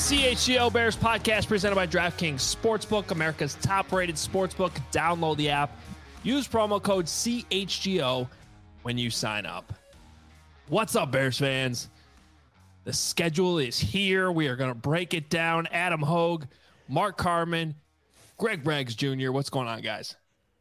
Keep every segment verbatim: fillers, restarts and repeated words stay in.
C H G O Bears podcast presented by DraftKings Sportsbook, America's top-rated sportsbook. Download the app. Use promo code C H G O when you sign up. What's up, Bears fans? The schedule is here. We are going to break it down. Adam Hogue, Mark Carman, Greg Braggs Junior What's going on, guys?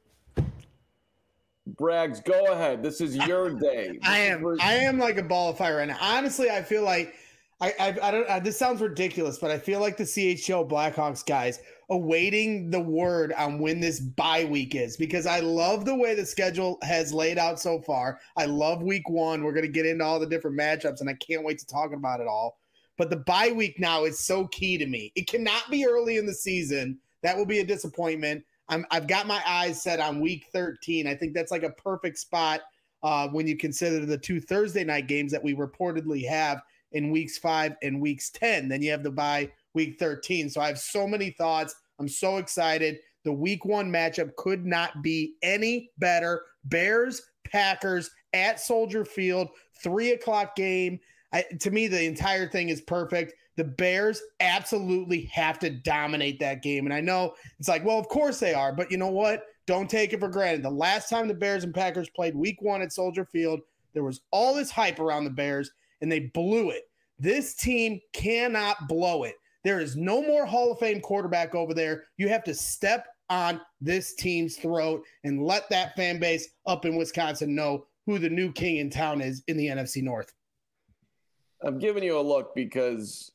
Braggs, go ahead. This is your day. I am. For- I am like a ball of fire right now. Honestly, I feel like I. I, I don't. I, this sounds ridiculous, but I feel like the C H G O Blackhawks guys awaiting the word on when this bye week is, because I love the way the schedule has laid out so far. I love week one. We're going to get into all the different matchups, and I can't wait to talk about it all. But the bye week now is so key to me. It cannot be early in the season. That will be a disappointment. I'm, I've got my eyes set on week thirteen. I think that's like a perfect spot uh, when you consider the two Thursday night games that we reportedly have in weeks five and weeks ten. Then you have the bye week thirteen. So I have so many thoughts. I'm so excited. The week one matchup could not be any better. Bears, Packers at Soldier Field, three o'clock game. I, to me, the entire thing is perfect. The Bears absolutely have to dominate that game. And I know it's like, well, of course they are. But you know what? Don't take it for granted. The last time the Bears and Packers played week one at Soldier Field, there was all this hype around the Bears, and they blew it. This team cannot blow it. There is no more Hall of Fame quarterback over there. You have to step on this team's throat and let that fan base up in Wisconsin know who the new king in town is in the N F C North. I'm giving you a look because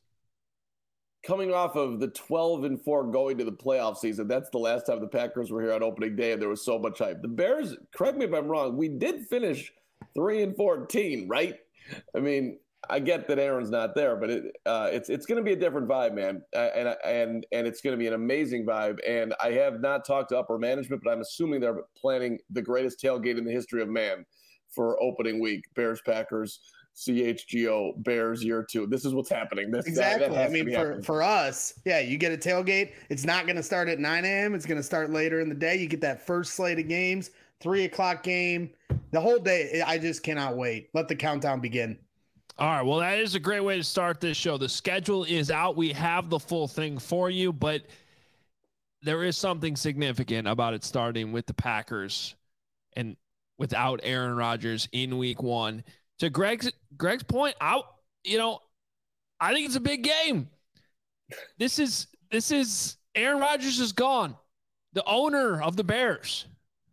coming off of the twelve and four going to the playoff season, that's the last time the Packers were here on opening day, and there was so much hype. The Bears, correct me if I'm wrong, we did finish three and fourteen, right? I mean, I get that Aaron's not there, but it, uh, it's it's going to be a different vibe, man, uh, and and and it's going to be an amazing vibe. And I have not talked to upper management, but I'm assuming they're planning the greatest tailgate in the history of man for opening week. Bears, Packers, C H G O, Bears year two. This is what's happening. This, exactly. That, that I mean, for, happening. for us, yeah, you get a tailgate. It's not going to start at nine a.m. It's going to start later in the day. You get that first slate of games, three o'clock game. The whole day, I just cannot wait. Let the countdown begin. All right, well, that is a great way to start this show. The schedule is out. We have the full thing for you, but there is something significant about it starting with the Packers and without Aaron Rodgers in week one. To Greg's Greg's point, I you know, I think it's a big game. This is this is Aaron Rodgers is gone. The owner of the Bears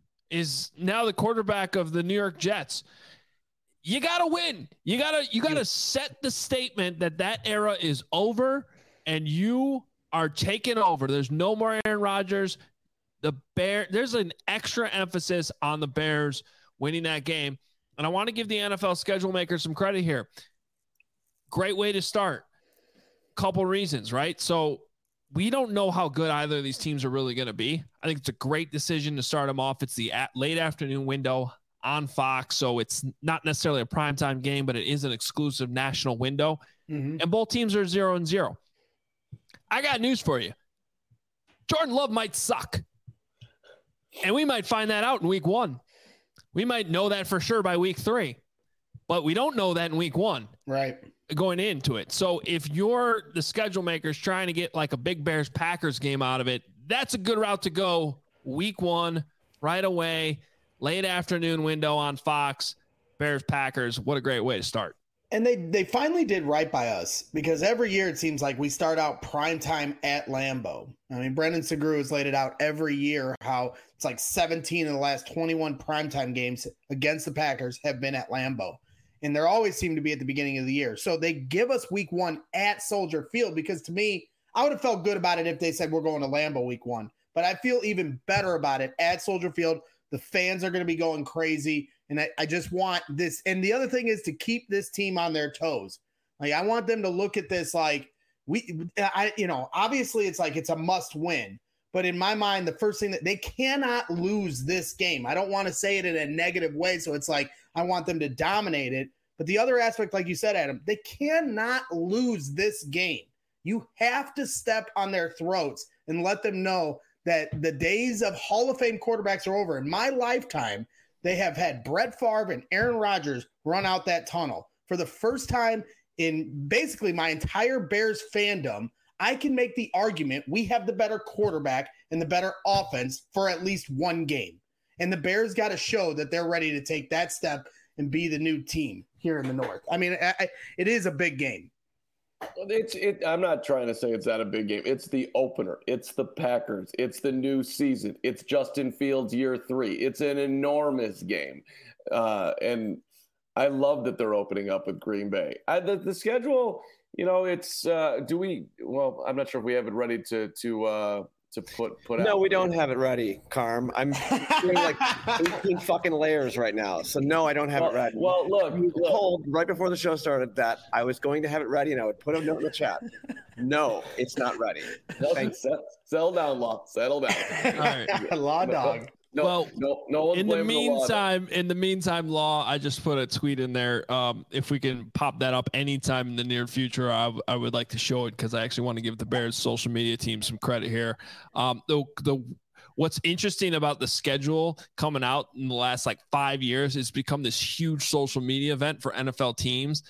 is now the quarterback of the New York Jets. You got to win. You got to you got to set the statement that that era is over and you are taking over. There's no more Aaron Rodgers. The Bear there's an extra emphasis on the Bears winning that game. And I want to give the N F L schedule makers some credit here. Great way to start. Couple reasons, right? So we don't know how good either of these teams are really going to be. I think it's a great decision to start them off. It's the at late afternoon window on Fox, so it's not necessarily a primetime game, but it is an exclusive national window. Mm-hmm. And both teams are zero and zero. I got news for you. Jordan Love might suck. And we might find that out in week one. We might know that for sure by week three, but we don't know that in week one. Right. Going into it. So if you're the schedule makers trying to get like a big Bears Packers game out of it, that's a good route to go week one right away. Late afternoon window on Fox, Bears, Packers. What a great way to start. And they they finally did right by us, because every year it seems like we start out primetime at Lambeau. I mean, Brendan Segru has laid it out every year how it's like seventeen of the last twenty-one primetime games against the Packers have been at Lambeau. And they always seem to be at the beginning of the year. So they give us week one at Soldier Field, because to me, I would have felt good about it if they said we're going to Lambeau week one. But I feel even better about it at Soldier Field. The fans are going to be going crazy. And I, I just want this. And the other thing is to keep this team on their toes. Like, I want them to look at this like we, I, you know, obviously it's like it's a must win. But in my mind, the first thing that they cannot lose this game. I don't want to say it in a negative way. So it's like I want them to dominate it. But the other aspect, like you said, Adam, they cannot lose this game. You have to step on their throats and let them know that the days of Hall of Fame quarterbacks are over. In my lifetime, they have had Brett Favre and Aaron Rodgers run out that tunnel. For the first time in basically my entire Bears fandom, I can make the argument we have the better quarterback and the better offense for at least one game. And the Bears got to show that they're ready to take that step and be the new team here in the North. I mean, I, I, it is a big game. It's it. I'm not trying to say it's not a big game. It's the opener. It's the Packers. It's the new season. It's Justin Fields year three. It's an enormous game, uh, and I love that they're opening up with Green Bay. I, the, the schedule, you know, it's. Uh, do we? Well, I'm not sure if we have it ready to to uh, to put put no, out. No, we don't have it ready, Carm. I'm doing like eighteen fucking layers right now. So no, I don't have well, it ready. Well, look, you look. told right before the show started that I was going to have it ready and I would put a note in the chat. No, it's not ready. Thanks. Settle down, Law. Settle down. All right. Law dog. No, well, no, no one's in the blaming the law. meantime, in the meantime, Law, I just put a tweet in there. Um, if we can pop that up anytime in the near future, I, w- I would like to show it because I actually want to give the Bears social media team some credit here. Um, the the what's interesting about the schedule coming out in the last like five years is become this huge social media event for N F L teams.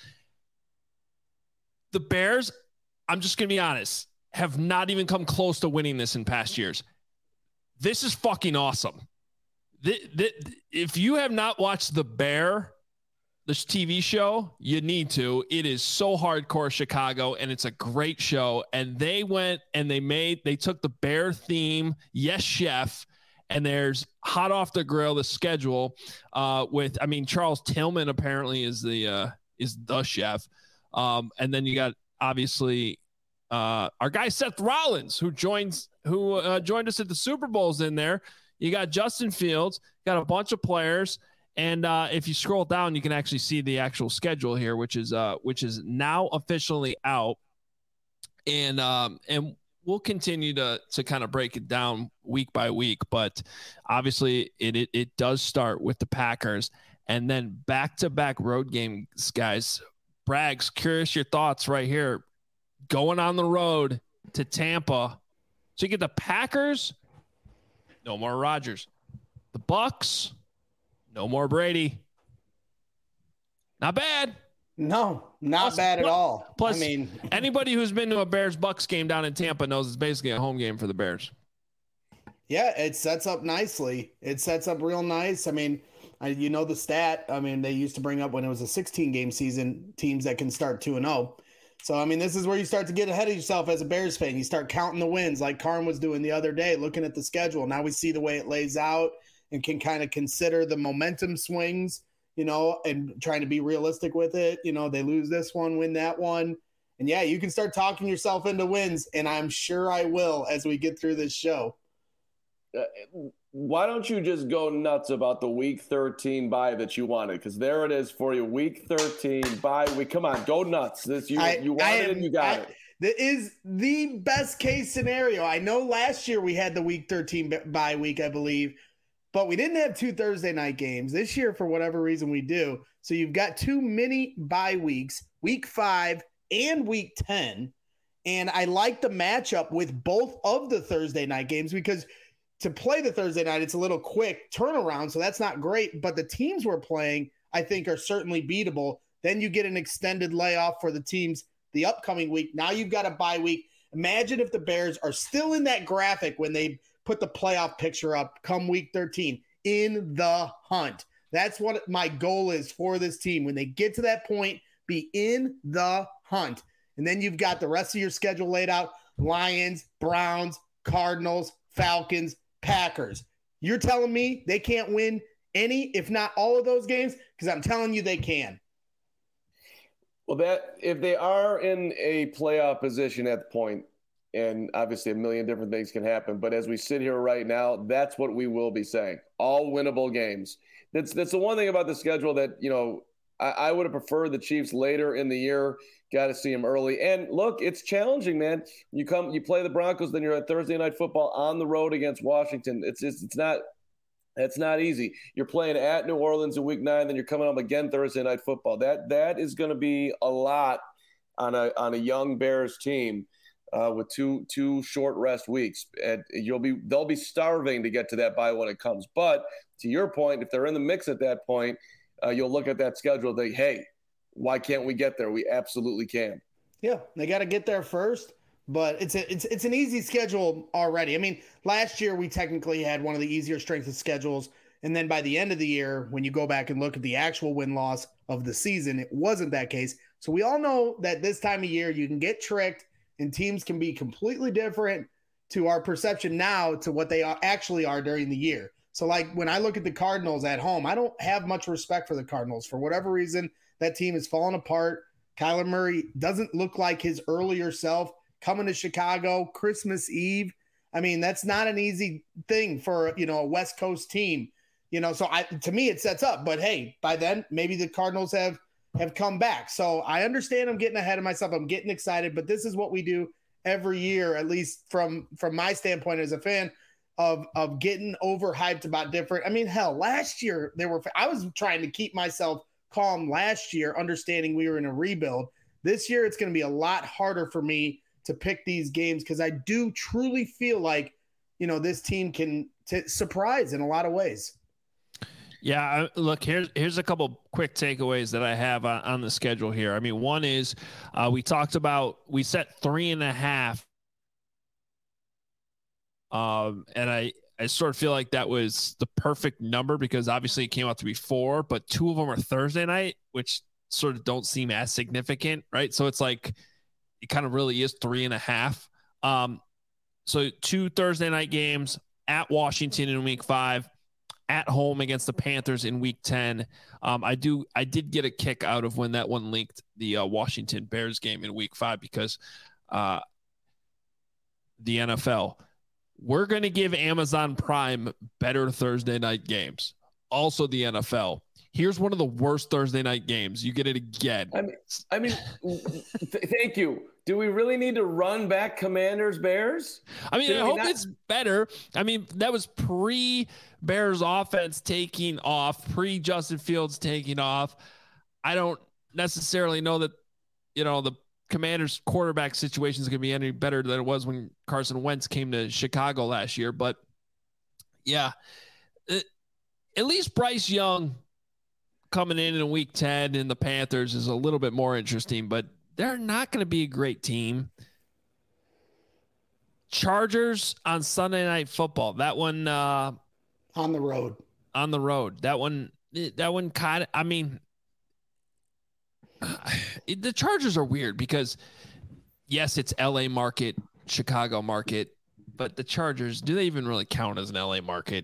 The Bears, I'm just gonna be honest, have not even come close to winning this in past years. This is fucking awesome. The, the, if you have not watched The Bear, this T V show, you need to. It is so hardcore Chicago, and it's a great show. And they went and they made, they took the Bear theme, Yes Chef, and there's hot off the grill, the schedule uh, with, I mean, Charles Tillman apparently is the uh, is the chef. Um, and then you got, obviously, uh, our guy Seth Rollins, who joins, who uh, joined us at the Super Bowls in there. You got Justin Fields, got a bunch of players. And uh, if you scroll down, you can actually see the actual schedule here, which is uh, which is now officially out. And um, and we'll continue to to kind of break it down week by week. But obviously, it it, it does start with the Packers, and then back to back road games, guys. Braggs, curious your thoughts right here. Going on the road to Tampa, so you get the Packers. No more Rodgers. The Bucks. No more Brady. Not bad. No, not plus, bad at plus, all. Plus, I mean, anybody who's been to a Bears-Bucks game down in Tampa knows it's basically a home game for the Bears. Yeah, it sets up nicely. It sets up real nice. I mean, I, you know the stat. I mean, they used to bring up when it was a sixteen-game season, teams that can start two and oh. So, I mean, this is where you start to get ahead of yourself as a Bears fan. You start counting the wins like Carm was doing the other day, looking at the schedule. Now we see the way it lays out and can kind of consider the momentum swings, you know, and trying to be realistic with it. You know, they lose this one, win that one. And, yeah, you can start talking yourself into wins, and I'm sure I will as we get through this show. Uh, why don't you just go nuts about the week thirteen bye that you wanted? Because there it is for you, week thirteen bye week. Come on, go nuts. This you, I, you wanted am, it and you got I, it. That is the best case scenario. I know last year we had the week thirteen bye week, I believe, but we didn't have two Thursday night games. This year, for whatever reason, we do. So you've got two mini bye weeks, week five and week ten. And I like the matchup with both of the Thursday night games because to play the Thursday night, it's a little quick turnaround. So that's not great. But the teams we're playing, I think, are certainly beatable. Then you get an extended layoff for the teams the upcoming week. Now you've got a bye week. Imagine if the Bears are still in that graphic when they put the playoff picture up come week thirteen, in the hunt. That's what my goal is for this team. When they get to that point, be in the hunt. And then you've got the rest of your schedule laid out. Lions, Browns, Cardinals, Falcons, Packers. You're telling me they can't win any, if not all of those games? Because I'm telling you they can. Well, that if they are in a playoff position at the point, and obviously a million different things can happen, but as we sit here right now, that's what we will be saying. All winnable games. That's that's the one thing about the schedule that, you know, I, I would have preferred the Chiefs later in the year. Got to see them early. And look, it's challenging, man. You come, you play the Broncos, then you're at Thursday Night Football on the road against Washington. It's just, it's not, it's not easy. You're playing at New Orleans in week nine, then you're coming up again Thursday Night Football. That that is going to be a lot on a on a young Bears team uh, with two two short rest weeks. And you'll be they'll be starving to get to that bye when it comes. But to your point, if they're in the mix at that point, uh, you'll look at that schedule and think, hey, why can't we get there? We absolutely can. Yeah, they got to get there first. but it's a, it's it's an easy schedule already. I mean, last year we technically had one of the easier strength of schedules, and then by the end of the year, when you go back and look at the actual win-loss of the season, it wasn't that case. So we all know that this time of year you can get tricked, and teams can be completely different to our perception now to what they are, actually are during the year. So like when I look at the Cardinals at home, I don't have much respect for the Cardinals. For whatever reason, that team has fallen apart. Kyler Murray doesn't look like his earlier self. Coming to Chicago, Christmas Eve. I mean, that's not an easy thing for, you know, a West Coast team. You know, so I, to me, it sets up. But hey, by then, maybe the Cardinals have have come back. So I understand I'm getting ahead of myself. I'm getting excited, but this is what we do every year, at least from from my standpoint as a fan of of getting overhyped about different. I mean, hell, last year there were I was trying to keep myself calm last year, understanding we were in a rebuild. This year, it's going to be a lot harder for me to pick these games because I do truly feel like, you know, this team can t- surprise in a lot of ways. Yeah, look, here's here's a couple quick takeaways that I have on, on the schedule here. I mean, one is uh, we talked about we set three and a half, um, and I I sort of feel like that was the perfect number because obviously it came out to be four, but two of them are Thursday night, which sort of don't seem as significant, right? So it's like it kind of really is three and a half. Um, so two Thursday night games at Washington in week five. At home against the Panthers in week ten. Um, I do. I did get a kick out of when that one linked the uh, Washington Bears game in week five because uh, the N F L, we're going to give Amazon Prime better Thursday night games. Also the N F L. Here's one of the worst Thursday night games. You get it again. I mean, I mean, th- thank you. Do we really need to run back Commanders Bears? I mean, Did I we hope not- it's better. I mean, that was pre-Bears offense taking off, pre-Justin Fields taking off. I don't necessarily know that, you know, the Commanders quarterback situation is going to be any better than it was when Carson Wentz came to Chicago last year. But, yeah, it, at least Bryce Young coming in in week ten in the Panthers is a little bit more interesting, but they're not going to be a great team. Chargers on Sunday Night Football. That one uh, on the road. On the road. That one. That one kind of. I mean, it, the Chargers are weird because, yes, it's L A market, Chicago market, but the Chargers, do they even really count as an L A market?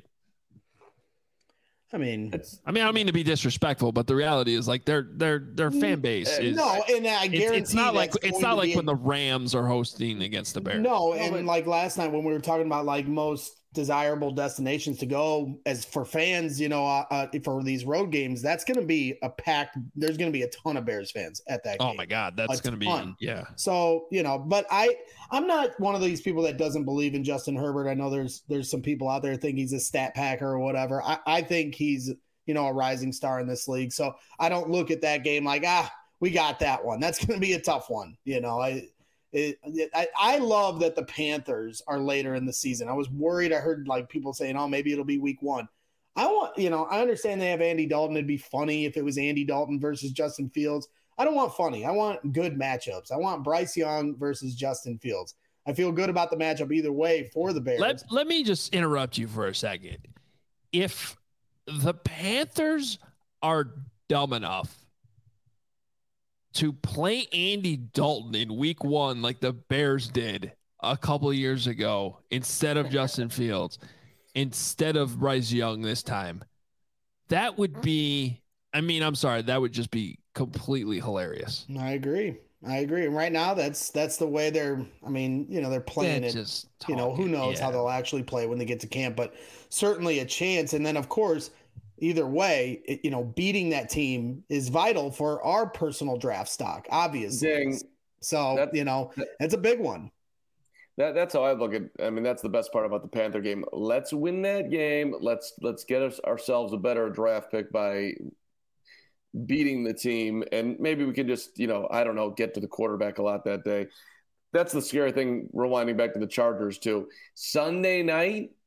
I mean, It's, I mean, I don't mean to be disrespectful, but the reality is like their their their fan base is no, and I guarantee it's, it's not like that's it's going not to like be when a- the Rams are hosting against the Bears. No, No, and but- like last night when we were talking about like most desirable destinations to go as for fans, you know, uh, uh, for these road games, that's going to be a packed. There's going to be a ton of Bears fans at that. Oh game. my God, that's A going to be ton. yeah. So, you know, but I, I'm not one of these people that doesn't believe in Justin Herbert. I know there's, there's some people out there that think he's a stat packer or whatever. I, I think he's, you know, a rising star in this league. So I don't look at that game like, ah, we got that one. That's going to be a tough one. You know, I, it, it, I, I love that the Panthers are later in the season. I was worried. I heard like people saying, oh, maybe it'll be week one. I want, you know, I understand they have Andy Dalton. It'd be funny if it was Andy Dalton versus Justin Fields. I don't want funny. I want good matchups. I want Bryce Young versus Justin Fields. I feel good about the matchup either way for the Bears. Let let me just interrupt you for a second. If the Panthers are dumb enough to play Andy Dalton in week one like the Bears did a couple of years ago instead of Justin Fields, instead of Bryce Young this time, that would be, I mean, I'm sorry, that would just be completely hilarious. I agree. I agree. And right now, that's that's the way they're. I mean, you know, they're playing They're it. just You know, who talking, knows yeah. how they'll actually play when they get to camp, but certainly a chance. And then, of course, either way, it, you know, beating that team is vital for our personal draft stock, obviously. Dang. So, That- you know, that- it's a big one. That that's how I look at. I mean, that's the best part about the Panther game. Let's win that game. Let's let's get us, ourselves a better draft pick by beating the team, and maybe we can just, you know, I don't know, get to the quarterback a lot that day. That's the scary thing. Rewinding back to the Chargers too. Sunday night,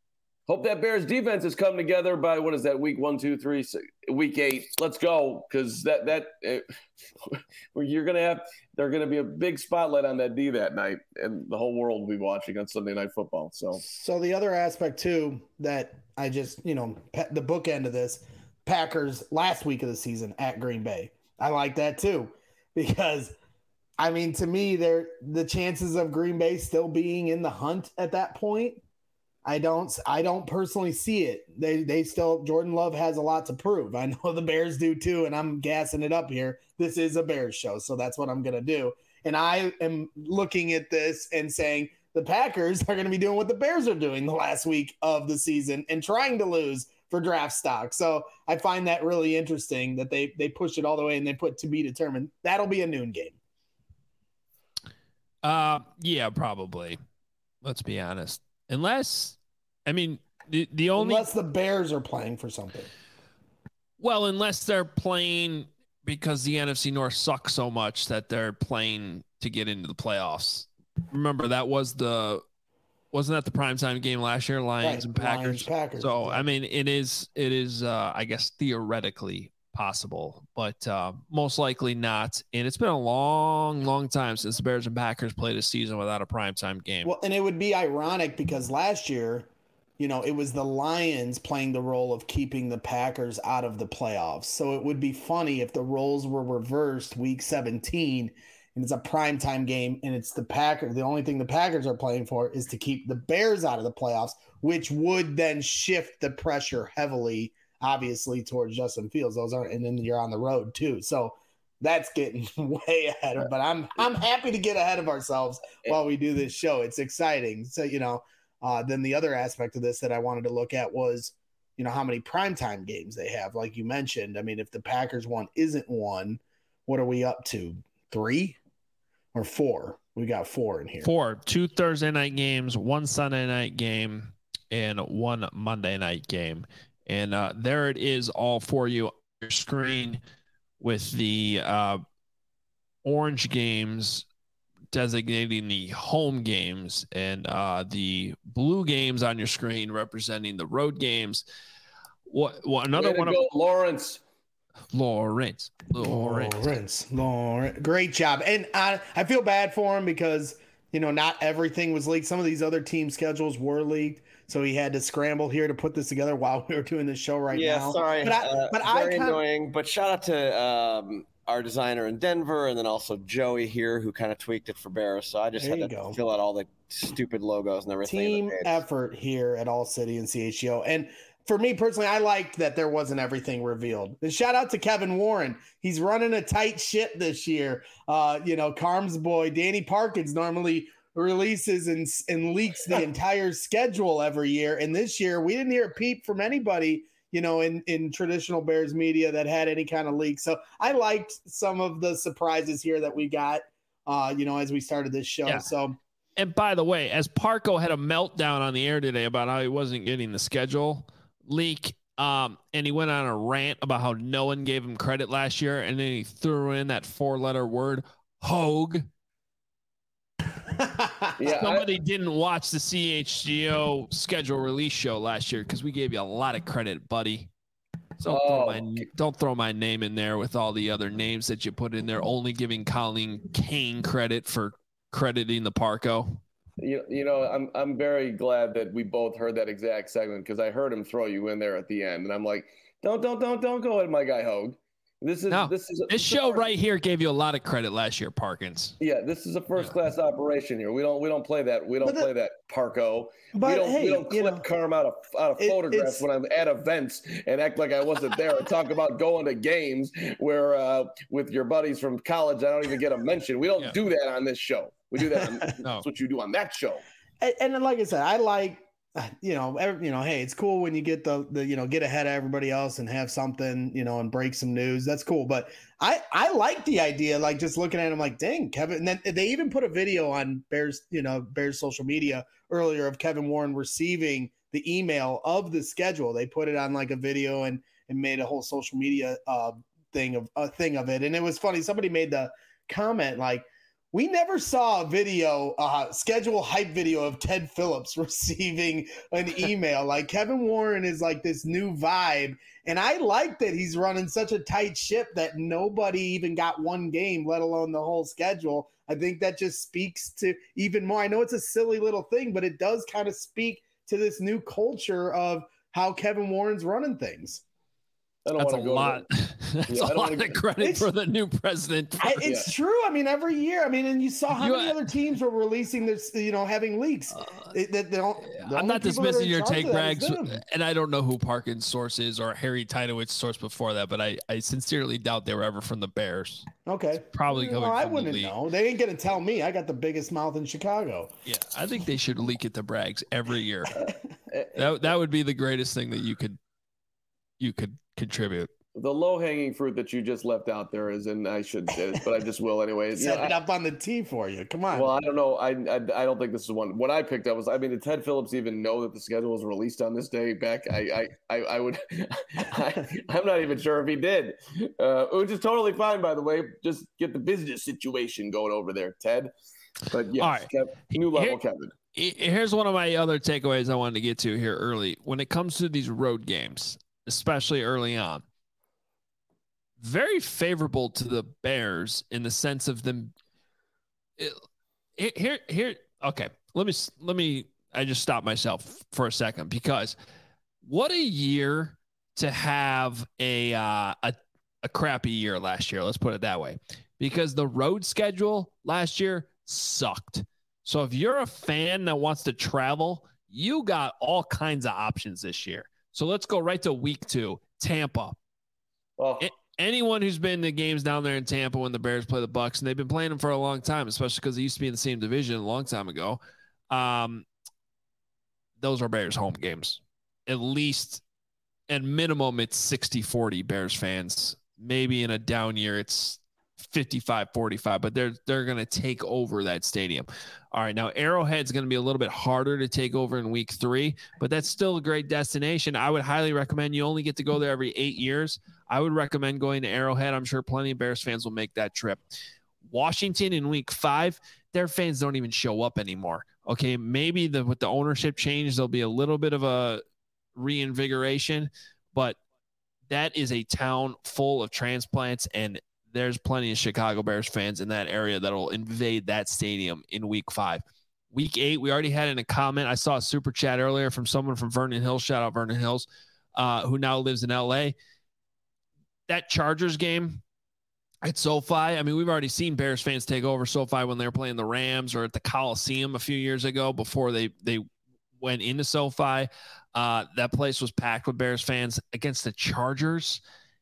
Hope that Bears defense has come together by, what is that, week one, two, three, six, week eight. Let's go, because that that uh, you're gonna have they're gonna be a big spotlight on that D that night, and the whole world will be watching on Sunday Night Football. So, so the other aspect too that I just you know the bookend of this, Packers last week of the season at Green Bay. I like that too, because I mean to me, there the chances of Green Bay still being in the hunt at that point. I don't I don't personally see it. They they still Jordan Love has a lot to prove. I know the Bears do too, and I'm gassing it up here. This is a Bears show, so that's what I'm gonna do. And I am looking at this and saying the Packers are gonna be doing what the Bears are doing the last week of the season and trying to lose for draft stock. So I find that really interesting that they they push it all the way and they put to be determined. That'll be a noon game. Uh yeah, probably. Let's be honest. Unless, I mean, the, the only... Unless the Bears are playing for something. Well, unless they're playing because the N F C North sucks so much that they're playing to get into the playoffs. Remember, that was the... Wasn't that the primetime game last year, Lions right. and Packers? Lions, Packers? So, exactly. I mean, it is, it is, uh, I guess, theoretically possible, but uh, most likely not. And it's been a long, long time since the Bears and Packers played a season without a primetime game. Well, and it would be ironic because last year, you know, it was the Lions playing the role of keeping the Packers out of the playoffs. So it would be funny if the roles were reversed week seventeen and it's a primetime game and it's the Packers. The only thing the Packers are playing for is to keep the Bears out of the playoffs, which would then shift the pressure heavily, obviously, towards Justin Fields. Those aren't, and then you're on the road too. So that's getting way ahead of, but I'm, I'm happy to get ahead of ourselves while we do this show. It's exciting. So, you know, uh, then the other aspect of this that I wanted to look at was, you know, how many primetime games they have. Like you mentioned, I mean, if the Packers one isn't one, what are we up to? Three? Or four. We got four in here. Four. Two Thursday night games, one Sunday night game, and one Monday night game. And uh, there it is all for you on your screen with the uh, orange games designating the home games and uh, the blue games on your screen representing the road games. What, what another one? Go, of, Lawrence. Lawrence. Lawrence. Lawrence. Lawrence. Great job. And I, I feel bad for him because, you know, not everything was leaked. Some of these other team schedules were leaked. So he had to scramble here to put this together while we were doing this show right yeah, now. Yeah, sorry. But I, uh, but very I kinda, annoying. But shout out to um, our designer in Denver and then also Joey here who kind of tweaked it for Bears. So I just There had to go. fill out all the stupid logos and everything. Team effort here at All City and C H G O. And for me personally, I liked that there wasn't everything revealed. And shout out to Kevin Warren. He's running a tight ship this year. Uh, you know, Carm's boy, Danny Parkins, normally releases and, and leaks the entire schedule every year. And this year, we didn't hear a peep from anybody, you know, in, in traditional Bears media that had any kind of leak. So I liked some of the surprises here that we got, uh, you know, as we started this show. Yeah. So. And by the way, as Parco had a meltdown on the air today about how he wasn't getting the schedule leak, um, and he went on a rant about how no one gave him credit last year, and then he threw in that four-letter word, Hogue. yeah, Somebody I, didn't watch the C H G O schedule release show last year because we gave you a lot of credit, buddy. So don't, Oh. throw my, don't throw my name in there with all the other names that you put in there, only giving Colleen Kane credit for crediting the Parco. You, you know, I'm I'm very glad that we both heard that exact segment because I heard him throw you in there at the end, and I'm like, don't don't don't don't go at my guy Hogue. This is No, this is a, This show right here gave you a lot of credit last year, Parkins. Yeah, this is a first class operation here. We don't we don't play that. We don't But the- play that Parco. But we don't hey, we don't you clip know, Carm out of out of it- photographs it's- when I'm at events and act like I wasn't there and talk about going to games where uh, with your buddies from college I don't even get a mention. We don't Yeah. do that on this show. We do that. On, No. That's what you do on that show. And, and then, like I said, I like, you know, every, you know, hey, it's cool when you get the, the, you know, get ahead of everybody else and have something, you know, and break some news. That's cool. But I, I like the idea, like just looking at him like, dang, Kevin. And then they even put a video on Bears, you know, Bears social media earlier of Kevin Warren receiving the email of the schedule. They put it on like a video and, and made a whole social media uh, thing of a thing of it. And it was funny. Somebody made the comment like, We never saw a video, uh, schedule hype video of Ted Phillips receiving an email. Like Kevin Warren is like this new vibe. And I like that he's running such a tight ship that nobody even got one game, let alone the whole schedule. I think that just speaks to even more. I know it's a silly little thing, but it does kind of speak to this new culture of how Kevin Warren's running things. I don't That's a want to go lot. That's Yeah, I a don't lot wanna- of credit It's- for the new president. I, it's true. I mean, every year. I mean, and you saw how You- many other teams were releasing this, you know, having leaks. Uh, It- that they don't- the I'm only not people that are dismissing in your charge take, of that is Brags, them. and I don't know who Parkin's source is or Harry Titowitz's source before that, but I, I sincerely doubt they were ever from the Bears. Okay. Probably Well, coming I from the wouldn't league. know. They ain't gonna tell me. I got the biggest mouth in Chicago. Yeah, I think they should leak it to Brags every year. that that would be the greatest thing that you could you could contribute. The low hanging fruit that you just left out there is, and I should, but I just will anyways. You know, Set it I- up on the tee for you. Come on. Well, I don't know. I, I I don't think this is one. What I picked up was, I mean, did Ted Phillips even know that the schedule was released on this day back? I I I, I would. I, I'm not even sure if he did, uh, which is totally fine, by the way. Just get the business situation going over there, Ted. But yeah, All right. Kev, new level, Here- Kevin. Here's one of my other takeaways I wanted to get to here early. When it comes to these road games, especially early on, very favorable to the Bears in the sense of them. It, here, here. Okay, let me let me. I just stopped myself for a second because what a year to have a uh, a a crappy year last year. Let's put it that way, because the road schedule last year sucked. So if you're a fan that wants to travel, you got all kinds of options this year. So let's go right to week two, Tampa. Oh, It, anyone who's been to games down there in Tampa when the Bears play the Bucks, and they've been playing them for a long time, especially because they used to be in the same division a long time ago. Um, those are Bears home games. At least, at minimum, it's sixty forty Bears fans. Maybe in a down year, it's fifty-five forty-five, but they're they're going to take over that stadium. All right, now Arrowhead's going to be a little bit harder to take over in week three, but that's still a great destination. I would highly recommend. You only get to go there every eight years. I would recommend going to Arrowhead. I'm sure plenty of Bears fans will make that trip. Washington in week five, their fans don't even show up anymore. Okay, maybe the with the ownership change, there'll be a little bit of a reinvigoration, but that is a town full of transplants, and there's plenty of Chicago Bears fans in that area that'll invade that stadium in week five. Week eight, we already had in a comment. I saw a super chat earlier from someone from Vernon Hills. Shout out Vernon Hills, uh, who now lives in L A. That Chargers game at SoFi, I mean, we've already seen Bears fans take over SoFi when they were playing the Rams or at the Coliseum a few years ago before they they went into SoFi. Uh, that place was packed with Bears fans against the Chargers.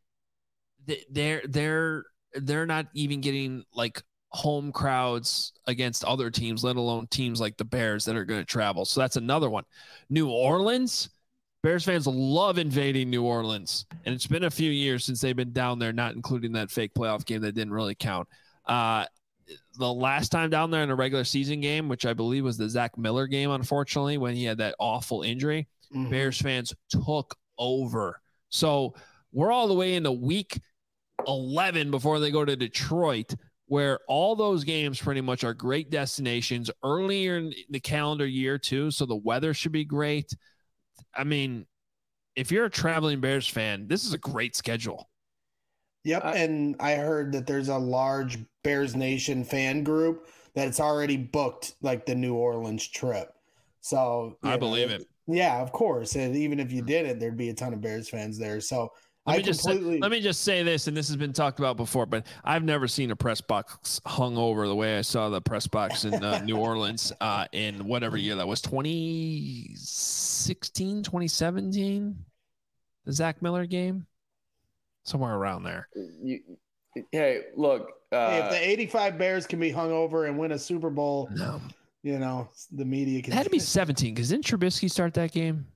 They're they're they're not even getting like home crowds against other teams, let alone teams like the Bears that are going to travel. So that's another one. New Orleans, Bears fans love invading New Orleans, and it's been a few years since they've been down there, not including that fake playoff game that didn't really count. Uh, the last time down there in a regular season game, which I believe was the Zach Miller game, unfortunately, when he had that awful injury, Mhm. Bears fans took over. So we're all the way into week eleven before they go to Detroit, where all those games pretty much are great destinations earlier in the calendar year too. So the weather should be great. I mean, if you're a traveling Bears fan, this is a great schedule. Yep, I- and I heard that there's a large Bears Nation fan group that's already booked like the New Orleans trip. So you I know, believe it. Yeah, of course. And even if you didn't, there'd be a ton of Bears fans there. So Let I me just say, completely let me just say this, and this has been talked about before, but I've never seen a press box hung over the way I saw the press box in uh, New Orleans uh, in whatever year that was, twenty sixteen, twenty seventeen, the Zach Miller game, somewhere around there. You, hey, look. Uh, Hey, if the eighty-five Bears can be hung over and win a Super Bowl, No, you know, the media can it had to be seventeen because didn't Trubisky start that game?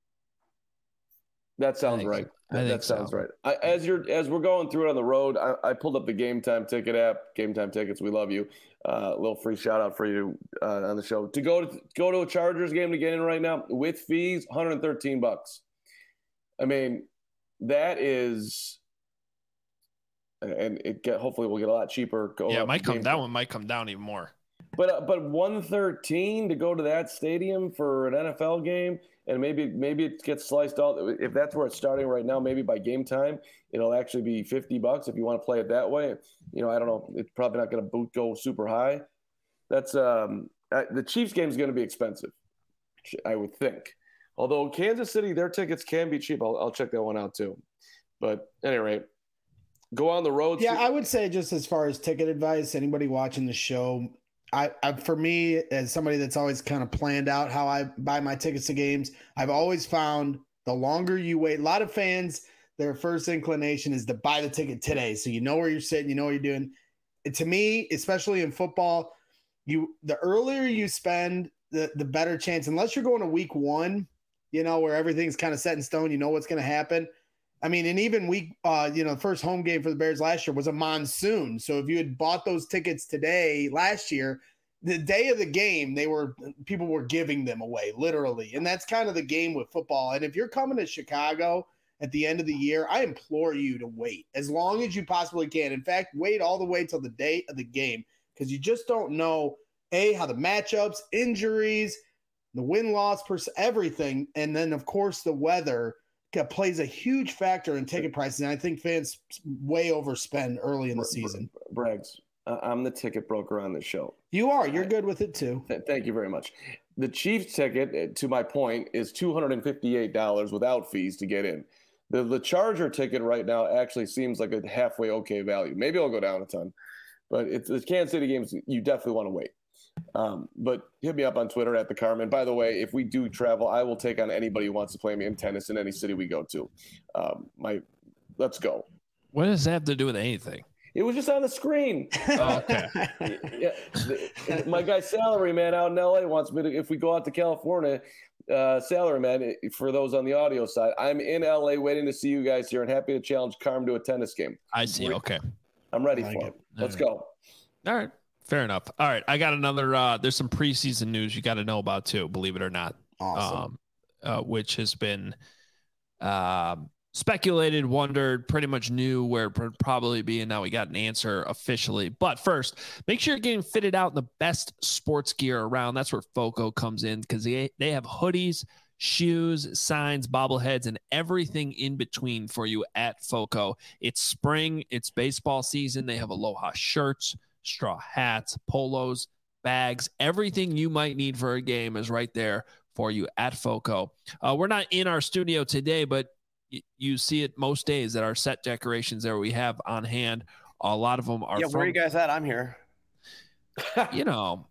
That sounds think right. so. I That, think that sounds so. right. I, as you're as we're going through it on the road, I, I pulled up the Game Time Ticket app. Game Time Tickets, we love you. Uh, a little free shout out for you uh, on the show. To go to go to a Chargers game to get in right now with fees, one hundred thirteen bucks. I mean, that is and it get hopefully will get a lot cheaper. Yeah, it might come that one might come down even more. But uh, but one thirteen to go to that stadium for an N F L game, and maybe maybe it gets sliced out. If that's where it's starting right now, maybe by game time it'll actually be fifty bucks if you want to play it that way. You know, I don't know. It's probably not going to boot go super high. That's um uh, the Chiefs game is going to be expensive, I would think. Although Kansas City, their tickets can be cheap. I'll, I'll check that one out too. But at any rate, go on the road. Yeah, I would say just as far as ticket advice, anybody watching the show. I, I, for me, as somebody that's always kind of planned out how I buy my tickets to games, I've always found the longer you wait, a lot of fans, their first inclination is to buy the ticket today. So you know where you're sitting, you know what you're doing. And to me, especially in football, you the earlier you spend, the the better chance, unless you're going to week one, you know, where everything's kind of set in stone, you know what's going to happen. I mean, and even week, uh, you know, the first home game for the Bears last year was a monsoon. So if you had bought those tickets today, last year, the day of the game, they were people were giving them away, literally. And that's kind of the game with football. And if you're coming to Chicago at the end of the year, I implore you to wait as long as you possibly can. In fact, wait all the way till the day of the game, because you just don't know, A, how the matchups, injuries, the win-loss, pers- everything. And then, of course, the weather plays a huge factor in ticket prices, and I think fans way overspend early in the season. Braggs, I'm the ticket broker on this show. You are. You're good with it, too. Thank you very much. The Chiefs ticket, to my point, is two hundred fifty-eight dollars without fees to get in. The, the Charger ticket right now actually seems like a halfway okay value. Maybe I'll go down a ton. But it's the Kansas City games, you definitely want to wait. Um, but hit me up on Twitter at the Carmen. By the way, if we do travel, I will take on anybody who wants to play me in tennis in any city we go to. Um, my, let's go. What does that have to do with anything? It was just on the screen. Oh, okay. Yeah, the, my guy Salary Man out in L A wants me to. If we go out to California, uh, Salary Man, for those on the audio side, I'm in L A waiting to see you guys here and happy to challenge Carm to a tennis game. I see. Okay. I'm ready like for it. it. Let's All go. All right. Fair enough. All right. I got another, uh, there's some preseason news you got to know about too, believe it or not. Awesome. Um, uh, which has been, uh, speculated, wondered, pretty much knew where it would probably be. And now we got an answer officially. But first, make sure you're getting fitted out in the best sports gear around. That's where Foco comes in, because they, they have hoodies, shoes, signs, bobbleheads, and everything in between for you at Foco. It's spring. It's baseball season. They have Aloha shirts, straw hats, polos, bags, everything you might need for a game is right there for you at Foco. Uh, we're not in our studio today, but y- you see it most days that our set decorations there we have on hand. A lot of them are Yeah, from, where are you guys at? I'm here. you know,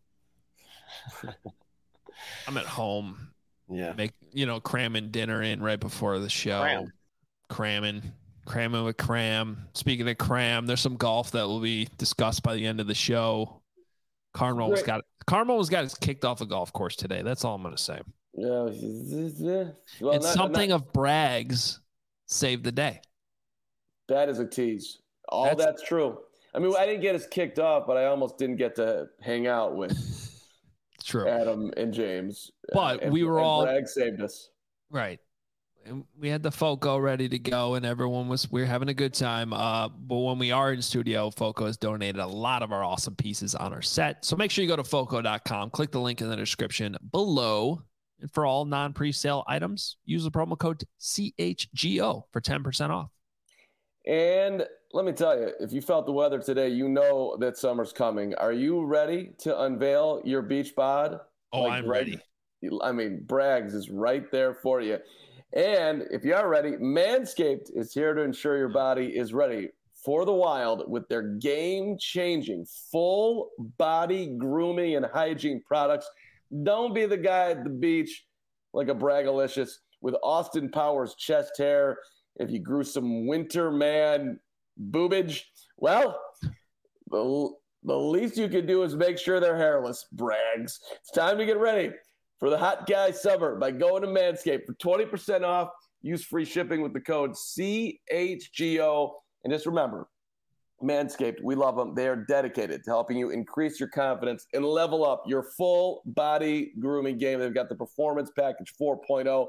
I'm at home, Yeah. make, you know, cramming dinner in right before the show, Cram. cramming. Cramming with Cram. Speaking of Cram, there's some golf that will be discussed by the end of the show. Carmel's got Carmel's got us kicked off a golf course today. That's all I'm going to say. Yeah. Well, and not, something not, of Braggs saved the day. that is a tease. All That's- that's, true. I mean, I didn't get us kicked off, but I almost didn't get to hang out with True. Adam and James. But and, we were and all Bragg saved us. right. And we had the Foco ready to go, and everyone was we were having a good time. Uh, but when we are in studio, Foco has donated a lot of our awesome pieces on our set. So make sure you go to foco dot com, click the link in the description below. And for all non-presale items, use the promo code C H G O for ten percent off. And let me tell you, if you felt the weather today, you know that summer's coming. Are you ready to unveil your beach bod? Oh, Like, I'm right- ready. I mean, Braggs is right there for you. And if you are ready, Manscaped is here to ensure your body is ready for the wild with their game-changing full body grooming and hygiene products. Don't be the guy at the beach like a Braggalicious with Austin Powers chest hair. If you grew some winter man boobage, well, the, the least you can do is make sure they're hairless, Braggs. It's time to get ready for the hot guy summer by going to Manscaped for twenty percent off. Use free shipping with the code C H G O. And just remember, Manscaped, we love them. They are dedicated to helping you increase your confidence and level up your full body grooming game. They've got the Performance Package four point oh.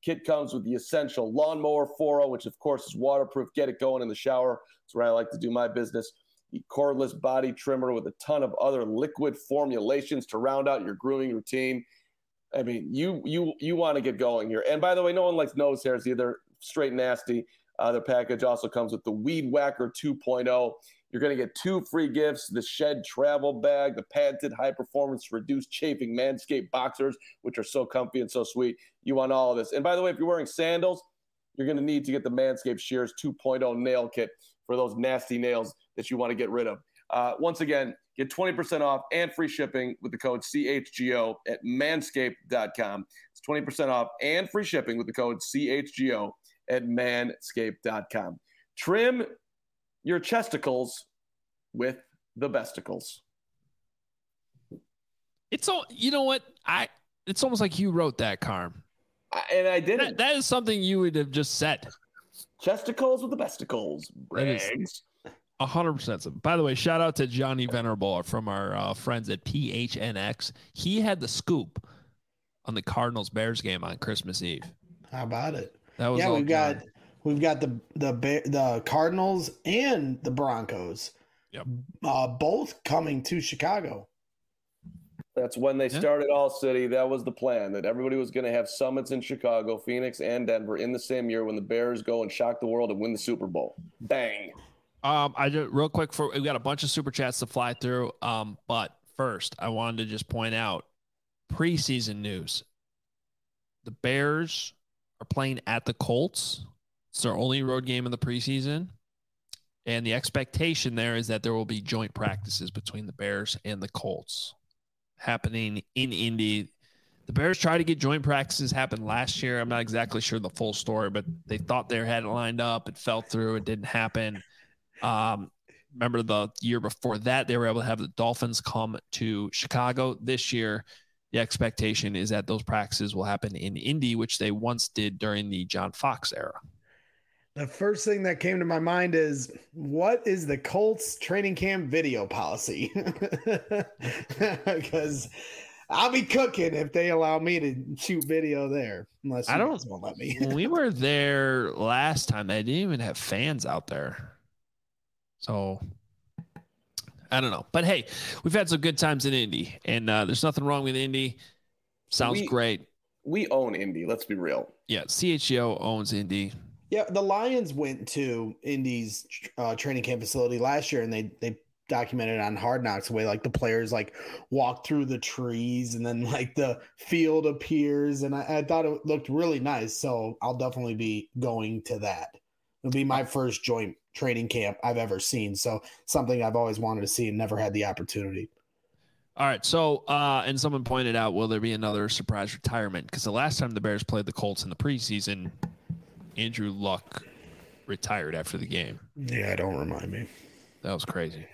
Kit comes with the essential lawnmower four oh, which of course is waterproof. Get it going in the shower. That's where I like to do my business. The cordless body trimmer with a ton of other liquid formulations to round out your grooming routine. I mean, you you you want to get going here. And by the way, no one likes nose hairs either. Straight nasty. Uh, their package also comes with the Weed Whacker two point oh. You're going to get two free gifts, the Shed travel bag, the patented high-performance reduced chafing Manscaped boxers, which are so comfy and so sweet. You want all of this. And by the way, if you're wearing sandals, you're going to need to get the Manscaped Shears two point oh nail kit for those nasty nails that you want to get rid of. Uh, once again, get twenty percent off and free shipping with the code C H G O at manscaped dot com. It's twenty percent off and free shipping with the code C H G O at manscaped dot com. Trim your chesticles with the besticles. It's all, you know what? I, it's almost like you wrote that, Carm. I, and I didn't. That, that is something you would have just said. Chesticles with the besticles. Brags. A hundred percent. By the way, shout out to Johnny Venerable from our uh, friends at P H N X. He had the scoop on the Cardinals Bears game on Christmas Eve. How about it? That was yeah. We've got John. we've got the the the Cardinals and the Broncos. Yep. Uh, both coming to Chicago. That's when they yeah. started All City. That was the plan, that everybody was going to have summits in Chicago, Phoenix, and Denver in the same year when the Bears go and shock the world and win the Super Bowl. Bang. Um, I just real quick for we got a bunch of super chats to fly through. Um, but first, I wanted to just point out preseason news. The Bears are playing at the Colts. It's their only road game in the preseason. And the expectation there is that there will be joint practices between the Bears and the Colts happening in Indy. The Bears tried to get joint practices happen last year. I'm not exactly sure the full story, but they thought they had it lined up. It fell through. It didn't happen. Um, remember the year before that, they were able to have the Dolphins come to Chicago. This year, the expectation is that those practices will happen in Indy, which they once did during the John Fox era. The first thing that came to my mind is, what is the Colts training camp video policy? Because I'll be cooking if they allow me to shoot video there. Unless you I don't guys won't let me. When we were there last time, they didn't even have fans out there. So I don't know. But hey, we've had some good times in Indy, and uh, there's nothing wrong with Indy. Sounds we, great. We own Indy. Let's be real. Yeah, C H G O owns Indy. Yeah, the Lions went to Indy's uh, training camp facility last year, and they they documented on Hard Knocks the way like the players like walk through the trees, and then like the field appears, and I, I thought it looked really nice. So I'll definitely be going to that. It'll be my first joint training camp I've ever seen. So something I've always wanted to see and never had the opportunity. All right. So, uh, and someone pointed out, will there be another surprise retirement? Because the last time the Bears played the Colts in the preseason, Andrew Luck retired after the game. Yeah, don't remind me. That was crazy.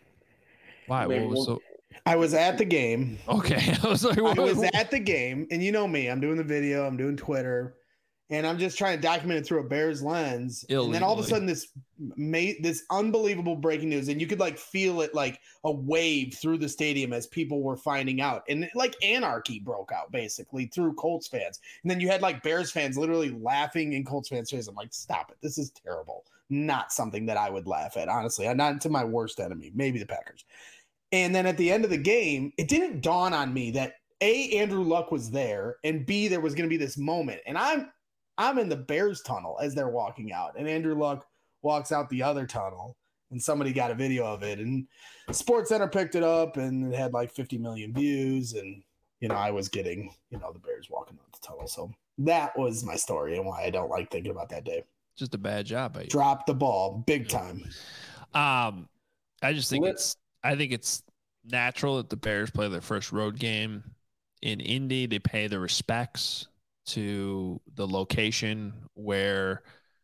Why? I mean, what was so? I was at the game. Okay, I was like, I what? was at the game, and you know me. I'm doing the video. I'm doing Twitter, and I'm just trying to document it through a Bears lens. Illegally. And then all of a sudden, this made this unbelievable breaking news, and you could like feel it like a wave through the stadium as people were finding out, and like anarchy broke out basically through Colts fans. And then you had like Bears fans literally laughing in Colts fans' faces. I'm like, stop it! This is terrible. Not something that I would laugh at, honestly. Not to my worst enemy, maybe the Packers. And then at the end of the game, it didn't dawn on me that A, Andrew Luck was there, and B, there was going to be this moment. And I'm I'm in the Bears tunnel as they're walking out, and Andrew Luck walks out the other tunnel, and somebody got a video of it, and SportsCenter picked it up, and it had like fifty million views, and you know I was getting you know the Bears walking out the tunnel. So that was my story and why I don't like thinking about that day. Just a bad job by you. Drop the ball big time. Um, I just think Let's- it's I think it's natural that the Bears play their first road game in Indy. They pay the respects to the location where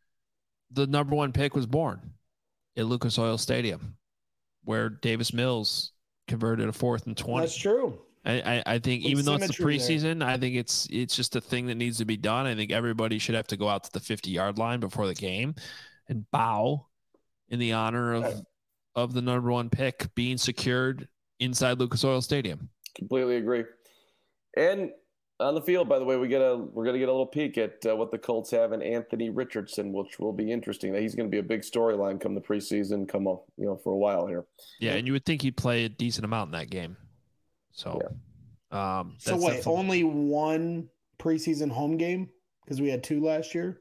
the number one pick was born, at Lucas Oil Stadium, where Davis Mills converted a fourth and twenty. That's true. I, I, I think Some even though it's the symmetry there. preseason, I think it's it's just a thing that needs to be done. I think everybody should have to go out to the fifty-yard line before the game and bow in the honor of of the number one pick being secured inside Lucas Oil Stadium. Completely agree. And On the field, by the way, we get a we're going to get a little peek at uh, what the Colts have in Anthony Richardson, which will be interesting. He's going to be a big storyline come the preseason, come up, you know, for a while here. Yeah, and you would think he'd play a decent amount in that game. So, yeah. um, so wait, definitely... only one preseason home game because we had two last year.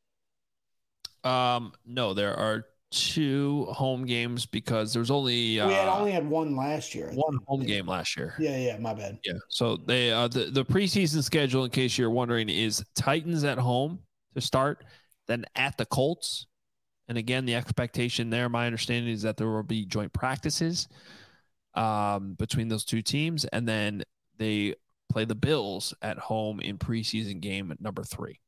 Um, no, there are two home games because there was only uh, we had only had one last year. One home game last year. Yeah, yeah, my bad. Yeah. So they uh, the the preseason schedule, in case you're wondering, is Titans at home to start, then at the Colts, and again the expectation there, my understanding is that there will be joint practices um, between those two teams, and then they play the Bills at home in preseason game at number three.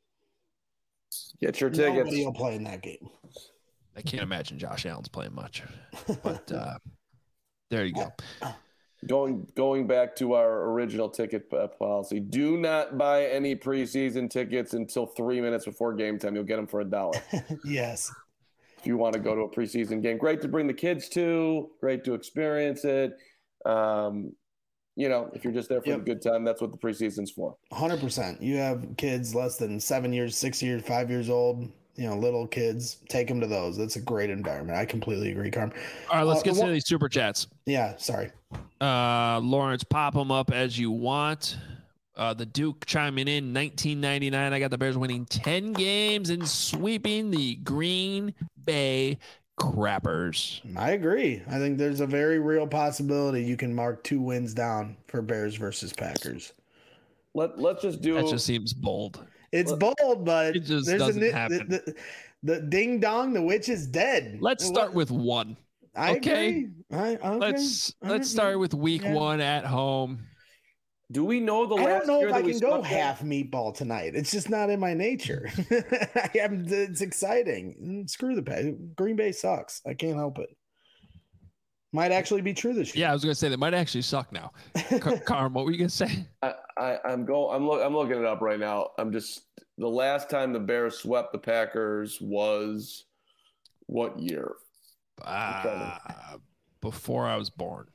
Get your tickets. Nobody will play in that game. I can't imagine Josh Allen's playing much, but uh, there you go. Going going back to our original ticket policy, do not buy any preseason tickets until three minutes before game time. You'll get them for a dollar. Yes. If you want to go to a preseason game, great to bring the kids to, great to experience it. Um, you know, if you're just there for yep. a good time, that's what the preseason's for. one hundred percent. You have kids less than seven years, six years, five years old. You know, little kids, take them to those. That's a great environment. I completely agree, Carm. All right, let's uh, get well, to these super chats. Yeah, sorry. Uh, Lawrence, pop them up as you want. Uh, the Duke chiming in, nineteen ninety-nine. I got the Bears winning ten games and sweeping the Green Bay Crappers. I agree. I think there's a very real possibility you can mark two wins down for Bears versus Packers. Let, let's just do... That just seems bold. It's bold, but it just there's doesn't a, happen. The, the, the ding dong, the witch is dead. Let's start with one. I okay. Agree. I, okay. Let's let's start with week yeah. one at home. Do we know the I last don't know year if I that can go half meatball tonight. It's just not in my nature. I am, it's exciting. Screw the pay. Green Bay sucks. I can't help it. Might actually be true this year. Yeah, I was gonna say that might actually suck now. Car- Carm, what were you gonna say? I, I, I'm go. I'm look. I'm looking it up right now. I'm just the last time the Bears swept the Packers was what year? Uh, before I was born.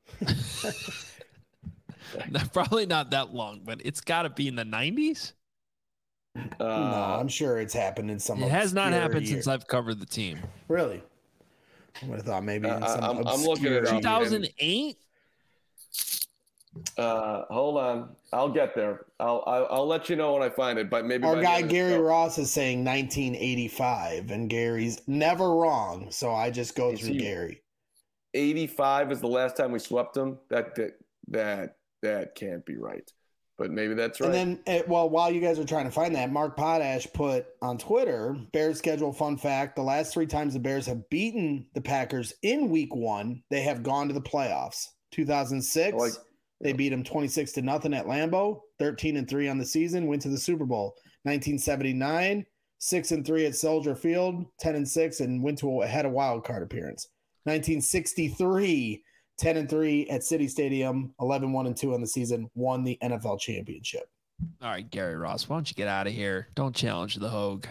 Probably not that long, but it's got to be in the nineties. Uh, no, I'm sure it's happened in some. It has not happened year. since I've covered the team. Really? I would have thought maybe in some uh, I'm, I'm looking at two thousand eight. Uh, hold on, I'll get there. I'll, I'll I'll let you know when I find it. But maybe our guy Gary Ross is saying nineteen eighty-five, and Gary's never wrong. So I just go through Gary. eighty-five is the last time we swept them. That that that that can't be right. But maybe that's right. And then, well, while you guys are trying to find that, Mark Potash put on Twitter, Bears schedule fun fact, the last three times the Bears have beaten the Packers in week one, they have gone to the playoffs. two thousand six, like, they beat them twenty-six to nothing at Lambeau, thirteen and three on the season, went to the Super Bowl. nineteen seventy-nine, six and three at Soldier Field, ten and six, and went to a, had a wild card appearance. nineteen sixty-three, ten and three at City Stadium, eleven one and two on the season, won the N F L championship. All right, Gary Ross, why don't you get out of here? Don't challenge the Hogue.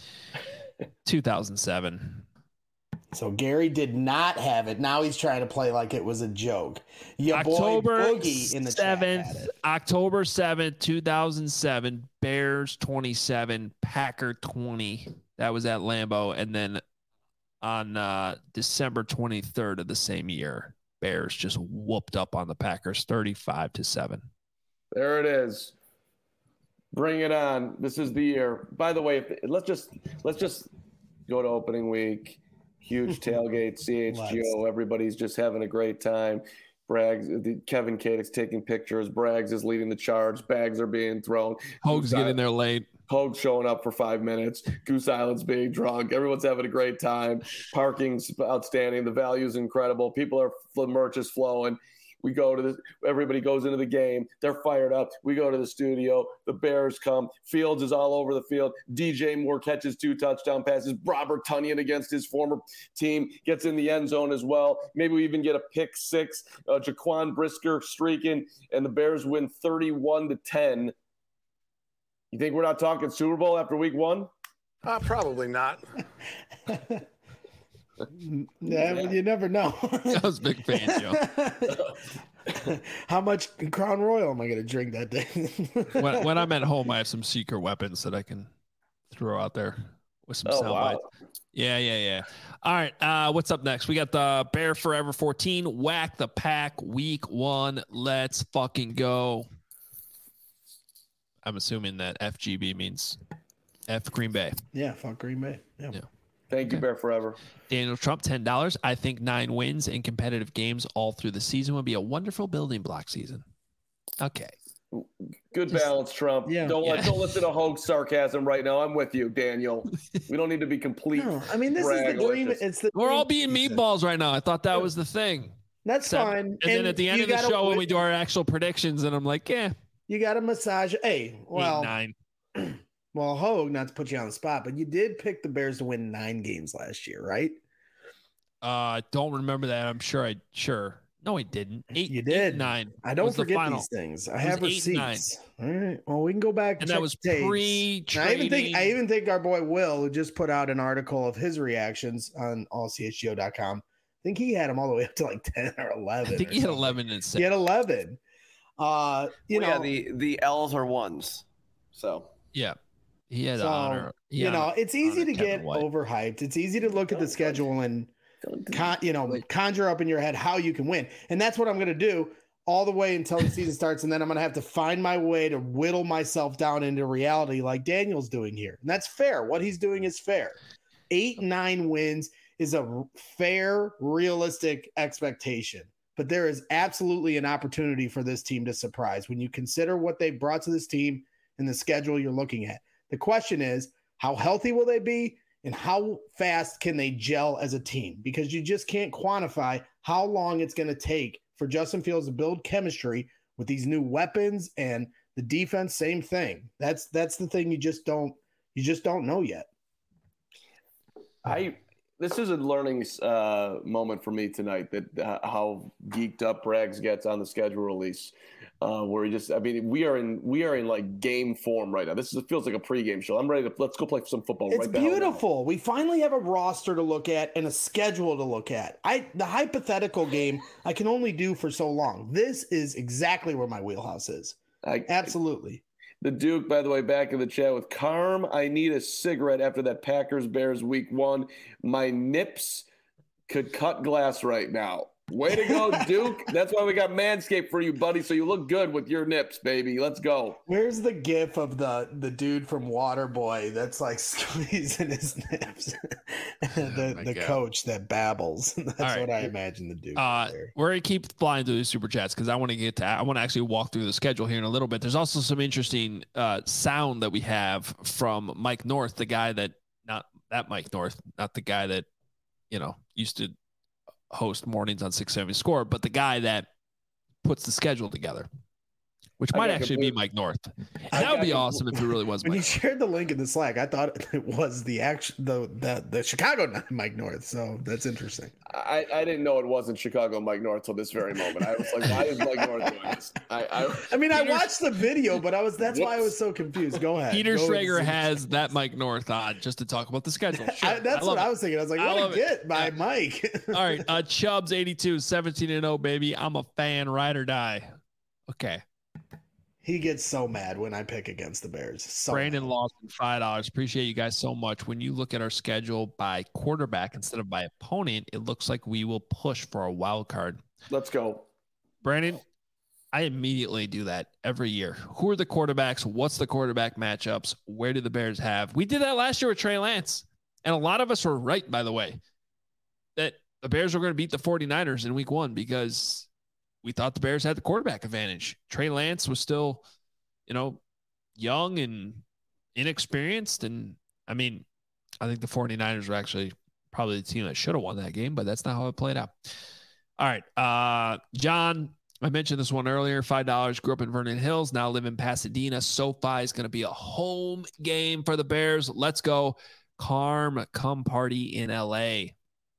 two thousand seven. So Gary did not have it. Now he's trying to play like it was a joke. Your October boy Boogie in the seventh, chat had it. October seventh, two thousand seven, Bears twenty-seven, Packer twenty. That was at Lambeau. And then on uh, December twenty-third of the same year, Bears just whooped up on the Packers thirty-five to seven. There it is. Bring it on. This is the year. By the way, if, let's just let's just go to opening week. Huge tailgate, C H G O. Everybody's just having a great time. Braggs, Kevin Kadek's taking pictures. Braggs is leading the charge. Bags are being thrown. Hogue's getting there late. Hogue showing up for five minutes. Goose Island's being drunk. Everyone's having a great time. Parking's outstanding. The value's incredible. People are, the merch is flowing. We go to the, everybody goes into the game. They're fired up. We go to the studio. The Bears come. Fields is all over the field. D J Moore catches two touchdown passes. Robert Tonyan against his former team gets in the end zone as well. Maybe we even get a pick six. Uh, Jaquan Brisker streaking, and the Bears win thirty-one to ten. You think we're not talking Super Bowl after week one? Uh, probably not. Yeah, well, you never know. I was a big fan, Joe. How much Crown Royal am I going to drink that day? when, when I'm at home, I have some secret weapons that I can throw out there with some Oh, sound wow. bites. Yeah, yeah, yeah. All right. Uh, what's up next? We got the Bear Forever fourteen. Whack the Pack week one. Let's fucking go. I'm assuming that F G B means F Green Bay. Yeah, fuck Green Bay. Yeah. Yeah. Thank you, Bear Forever. Daniel Trump, ten dollars. I think nine wins in competitive games all through the season would be a wonderful building block season. Okay. Good Just- balance, Trump. Yeah. Don't Yeah. let don't listen to Hogue sarcasm right now. I'm with you, Daniel. We don't need to be complete. No, I mean, this is the brag like dream. this. It's the We're all dream being season. meatballs right now. I thought that was the thing. That's Except- fine. And, then at the end you of the gotta show, when win- we do our actual predictions, and I'm like, yeah, you got to massage. Hey, well, eight, nine. well, Hogue, not to put you on the spot, but you did pick the Bears to win nine games last year, right? Uh, don't remember that. I'm sure I sure. No, I didn't. Eight. You eight, did. nine. I don't was the forget final. these things. I was have eight and nine. receipts. All right. Well, we can go back And check that was the tapes. pre-trading. And I even think I even think our boy Will, who just put out an article of his reactions on all c h g o dot com, I think he had him all the way up to like ten or eleven. I think or he had something. eleven and He six. had eleven. Uh, you Well, know, yeah, the the L's are ones. So Yeah, he had So, honor. He you had know, it's easy honor to Kevin get White. overhyped. It's easy to look at the Don't schedule and Don't do con, you know, conjure up in your head how you can win. And that's what I'm going to do all the way until the season starts. And then I'm going to have to find my way to whittle myself down into reality like Daniel's doing here. And that's fair. What he's doing is fair. Eight, nine wins is a fair, realistic expectation. But there is absolutely an opportunity for this team to surprise when you consider what they brought to this team and the schedule you're looking at. The question is, how healthy will they be? And how fast can they gel as a team? Because you just can't quantify how long it's going to take for Justin Fields to build chemistry with these new weapons and the defense. Same thing. That's that's the thing you just don't you just don't know yet. I this is a learning uh, moment for me tonight. That uh, how geeked up Braggs gets on the schedule release, uh, where he just I mean we are in we are in like game form right now. This is, it feels like a pregame show. I'm ready to let's go play some football. It's right the hell now. beautiful. We finally have a roster to look at and a schedule to look at. I the hypothetical game I can only do for so long. This is exactly where my wheelhouse is. I, Absolutely. The Duke, by the way, back in the chat with Carm. I need a cigarette after that Packers Bears week one. My nips could cut glass right now. Way to go, Duke. That's why we got Manscaped for you, buddy. So you look good with your nips, baby. Let's go. Where's the gif of the the dude from Waterboy that's like squeezing his nips? the my the God. coach that babbles. That's All right. what I imagine the dude. Uh, there. we're gonna keep flying through the super chats because I want to get to. I want to actually walk through the schedule here in a little bit. There's also some interesting uh, sound that we have from Mike North, the guy that not that Mike North, not the guy that you know used to host mornings on six seventy Score, but the guy that puts the schedule together, which I might got actually be complete- Mike North. I And that would got be compl- awesome if it really was When you Mike. shared the link in the Slack, I thought it was the action the the, the Chicago Mike North. So that's interesting. I, I didn't know it wasn't Chicago Mike North till this very moment. I was like, why is Mike North doing this? I, I, I mean, I Peter- watched the video, but I was that's why I Whoops. was so confused. Go ahead. Peter Go with Schrager the- has that Mike North on just to talk about the schedule. Sure. I, that's I love what it. I was thinking. I was like, I what love a it. get by Yeah. Mike. All right. Uh, Chubbs eighty-two, seventeen and oh, baby. I'm a fan, ride or die. Okay. He gets so mad when I pick against the Bears. So Brandon mad. Lawson, five dollars. Appreciate you guys so much. When you look at our schedule by quarterback instead of by opponent, it looks like we will push for a wild card. let's go. Brandon, I immediately do that every year. Who are the quarterbacks? What's the quarterback matchups? Where do the Bears have? We did that last year with Trey Lance. And a lot of us were right, by the way, that the Bears were going to beat the 49ers in week one because we thought the Bears had the quarterback advantage. Trey Lance was still, you know, young and inexperienced. And I mean, I think the 49ers were actually probably the team that should have won that game, but that's not how it played out. All right. Uh, John, I mentioned this one earlier, five dollars, grew up in Vernon Hills, now live in Pasadena. SoFi is going to be a home game for the Bears. Let's go. Carm, come party in L A.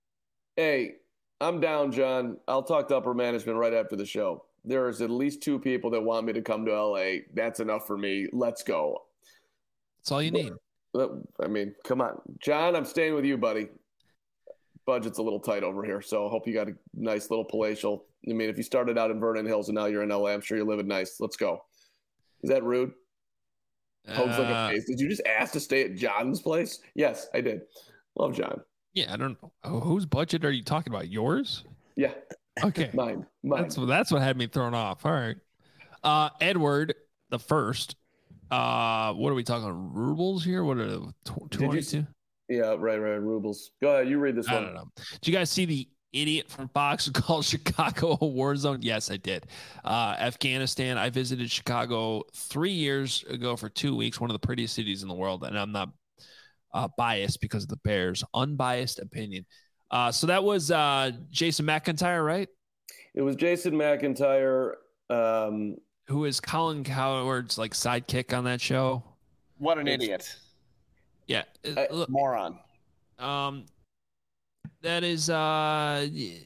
Hey, I'm down, John. I'll talk to upper management right after the show. There's at least two people that want me to come to L A. That's enough for me. Let's go. That's all you need. I mean, come on. John, I'm staying with you, buddy. budget's a little tight over here. So I hope you got a nice little palatial. I mean, if you started out in Vernon Hills and now you're in L A, I'm sure you're living nice. Let's go. Is that rude? Hope's like a face. Did you just ask to stay at John's place? Yes, I did. Love John. Yeah, I don't know. Oh, whose budget are you talking about? Yours? Yeah. Okay. Mine. Mine. That's, that's what had me thrown off. All right. Uh, Edward the first. Uh, what are we talking? Rubles here? What are the twenty-two? Yeah, right, right. Rubles. Go ahead. You read this I one. don't know. Did you guys see the idiot from Fox who called Chicago a war zone? Yes, I did. Uh, Afghanistan. I visited Chicago three years ago for two weeks. One of the prettiest cities in the world, and I'm not uh, biased because of the Bears. Unbiased opinion. Uh, so that was uh, Jason McIntyre, right? It was Jason McIntyre. Um, Who is Colin Cowherd's like sidekick on that show? What an idiot. Yeah. I, Look, Moron. Um, that is, uh,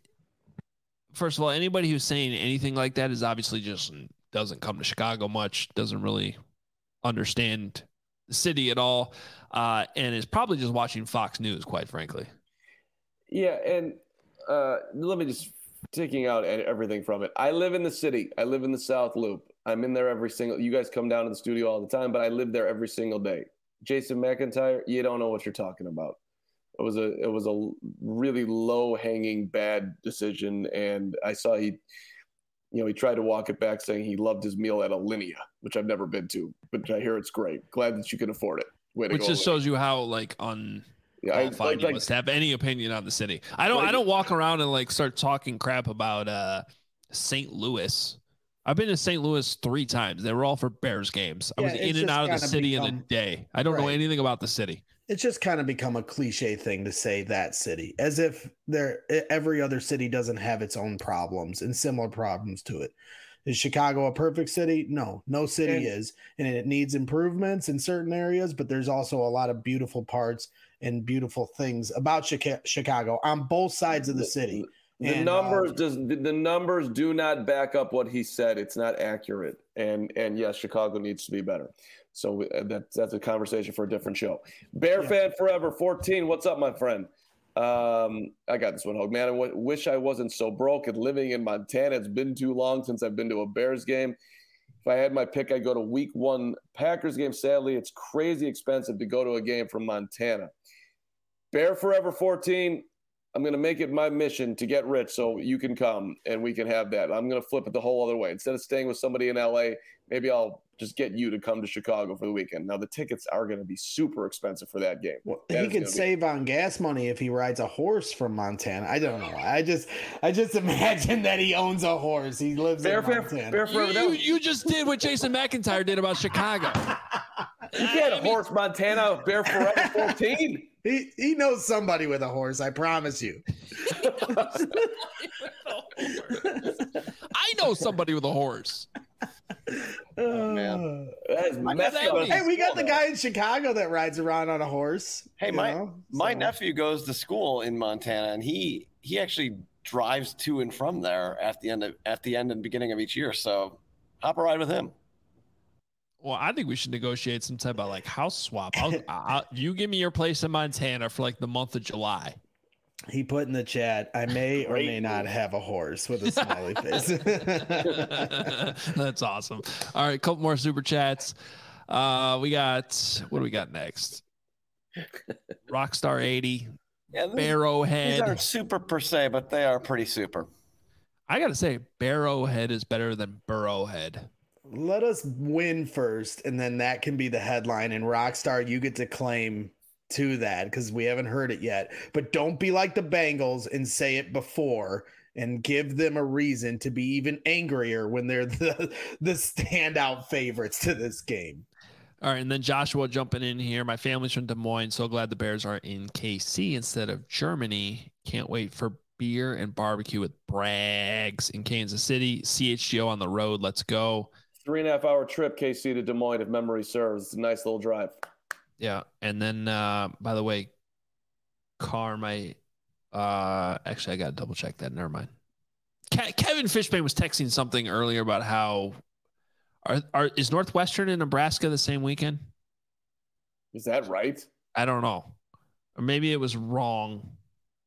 first of all, anybody who's saying anything like that is obviously just doesn't come to Chicago much, doesn't really understand the city at all, uh, and is probably just watching Fox News, quite frankly. Yeah, and uh, let me just taking out everything from it. I live in the city. I live in the South Loop. I'm in there every single. You guys come down to the studio all the time, but I live there every single day. Jason McIntyre, you don't know what you're talking about. It was a it was a really low hanging bad decision, and I saw he, you know, he tried to walk it back, saying he loved his meal at Alinea, which I've never been to, but I hear it's great. Glad that you can afford it. Way to Which go, just Alinea. shows you how like un. Yeah, I, qualified like, you like, must have any opinion on the city. I don't. like- I don't walk around and like start talking crap about uh, Saint Louis. I've been to Saint Louis three times. They were all for Bears games. I Yeah, was it's in and just out of the kinda city in a become- day. I don't know Right. anything about the city. It's just kind of become a cliche thing to say that city, as if there every other city doesn't have its own problems and similar problems to it. Is Chicago a perfect city? No, no city And- is, and it needs improvements in certain areas. But there's also a lot of beautiful parts and beautiful things about Chica- Chicago on both sides of the city. The And, numbers uh, does the numbers do not back up what he said. It's not accurate, and and yes, Chicago needs to be better. So uh, that that's a conversation for a different show. Bear Yeah. fan forever fourteen. What's up, my friend? Um, I got this one, Hogue. Man, I w- wish I wasn't so broke and living in Montana. It's been too long since I've been to a Bears game. If I had my pick, I'd go to Week One Packers game. Sadly, it's crazy expensive to go to a game from Montana. Bear forever fourteen. I'm going to make it my mission to get rich so you can come and we can have that. I'm going to flip it the whole other way. Instead of staying with somebody in L A, maybe I'll just get you to come to Chicago for the weekend. Now, the tickets are going to be super expensive for that game. Well, That he is could gonna be- save on gas money if he rides a horse from Montana. I don't know. I just, I just imagine that he owns a horse. He lives Bear, in Bear, Montana. Bear You, forever. That you, was- you just did what Jason McIntyre did about Chicago. you can't horse Montana Bear forever fourteen. He he knows somebody with a horse. I promise you. I know somebody with a horse. Oh, man. That is What messed does that up. mean? Hey, we got the guy in Chicago that rides around on a horse. Hey, you my know? my So- nephew goes to school in Montana, and he he actually drives to and from there at the end of at the end and beginning of each year. So hop a ride with him. Well, I think we should negotiate some type of like house swap. I'll, I'll, you give me your place in Montana for like the month of July. He put in the chat, I may or Great may not move. have a horse with a smiley face. That's awesome. All right, couple more super chats. Uh, we got what do we got next? Rockstar eighty, Yeah, these, these Barrowhead. aren't super per se, but they are pretty super. I gotta say, Barrowhead is better than Burrowhead. Let us win first, and then that can be the headline. And Rockstar, you get to claim to that because we haven't heard it yet. But don't be like the Bengals and say it before and give them a reason to be even angrier when they're the, the standout favorites to this game. All right, and then Joshua jumping in here. My family's from Des Moines. So glad the Bears are in K C instead of Germany. Can't wait for beer and barbecue with Braggs in Kansas City. C H G O on the road. Let's go. Three and a half hour trip, K C to Des Moines, if memory serves. It's a nice little drive. Yeah, and then uh, by the way, Car, my uh, actually I got to double check that. Never mind. Ke- Kevin Fishbane was texting something earlier about how are, are is Northwestern and Nebraska the same weekend? Is that right? I don't know, or maybe it was wrong.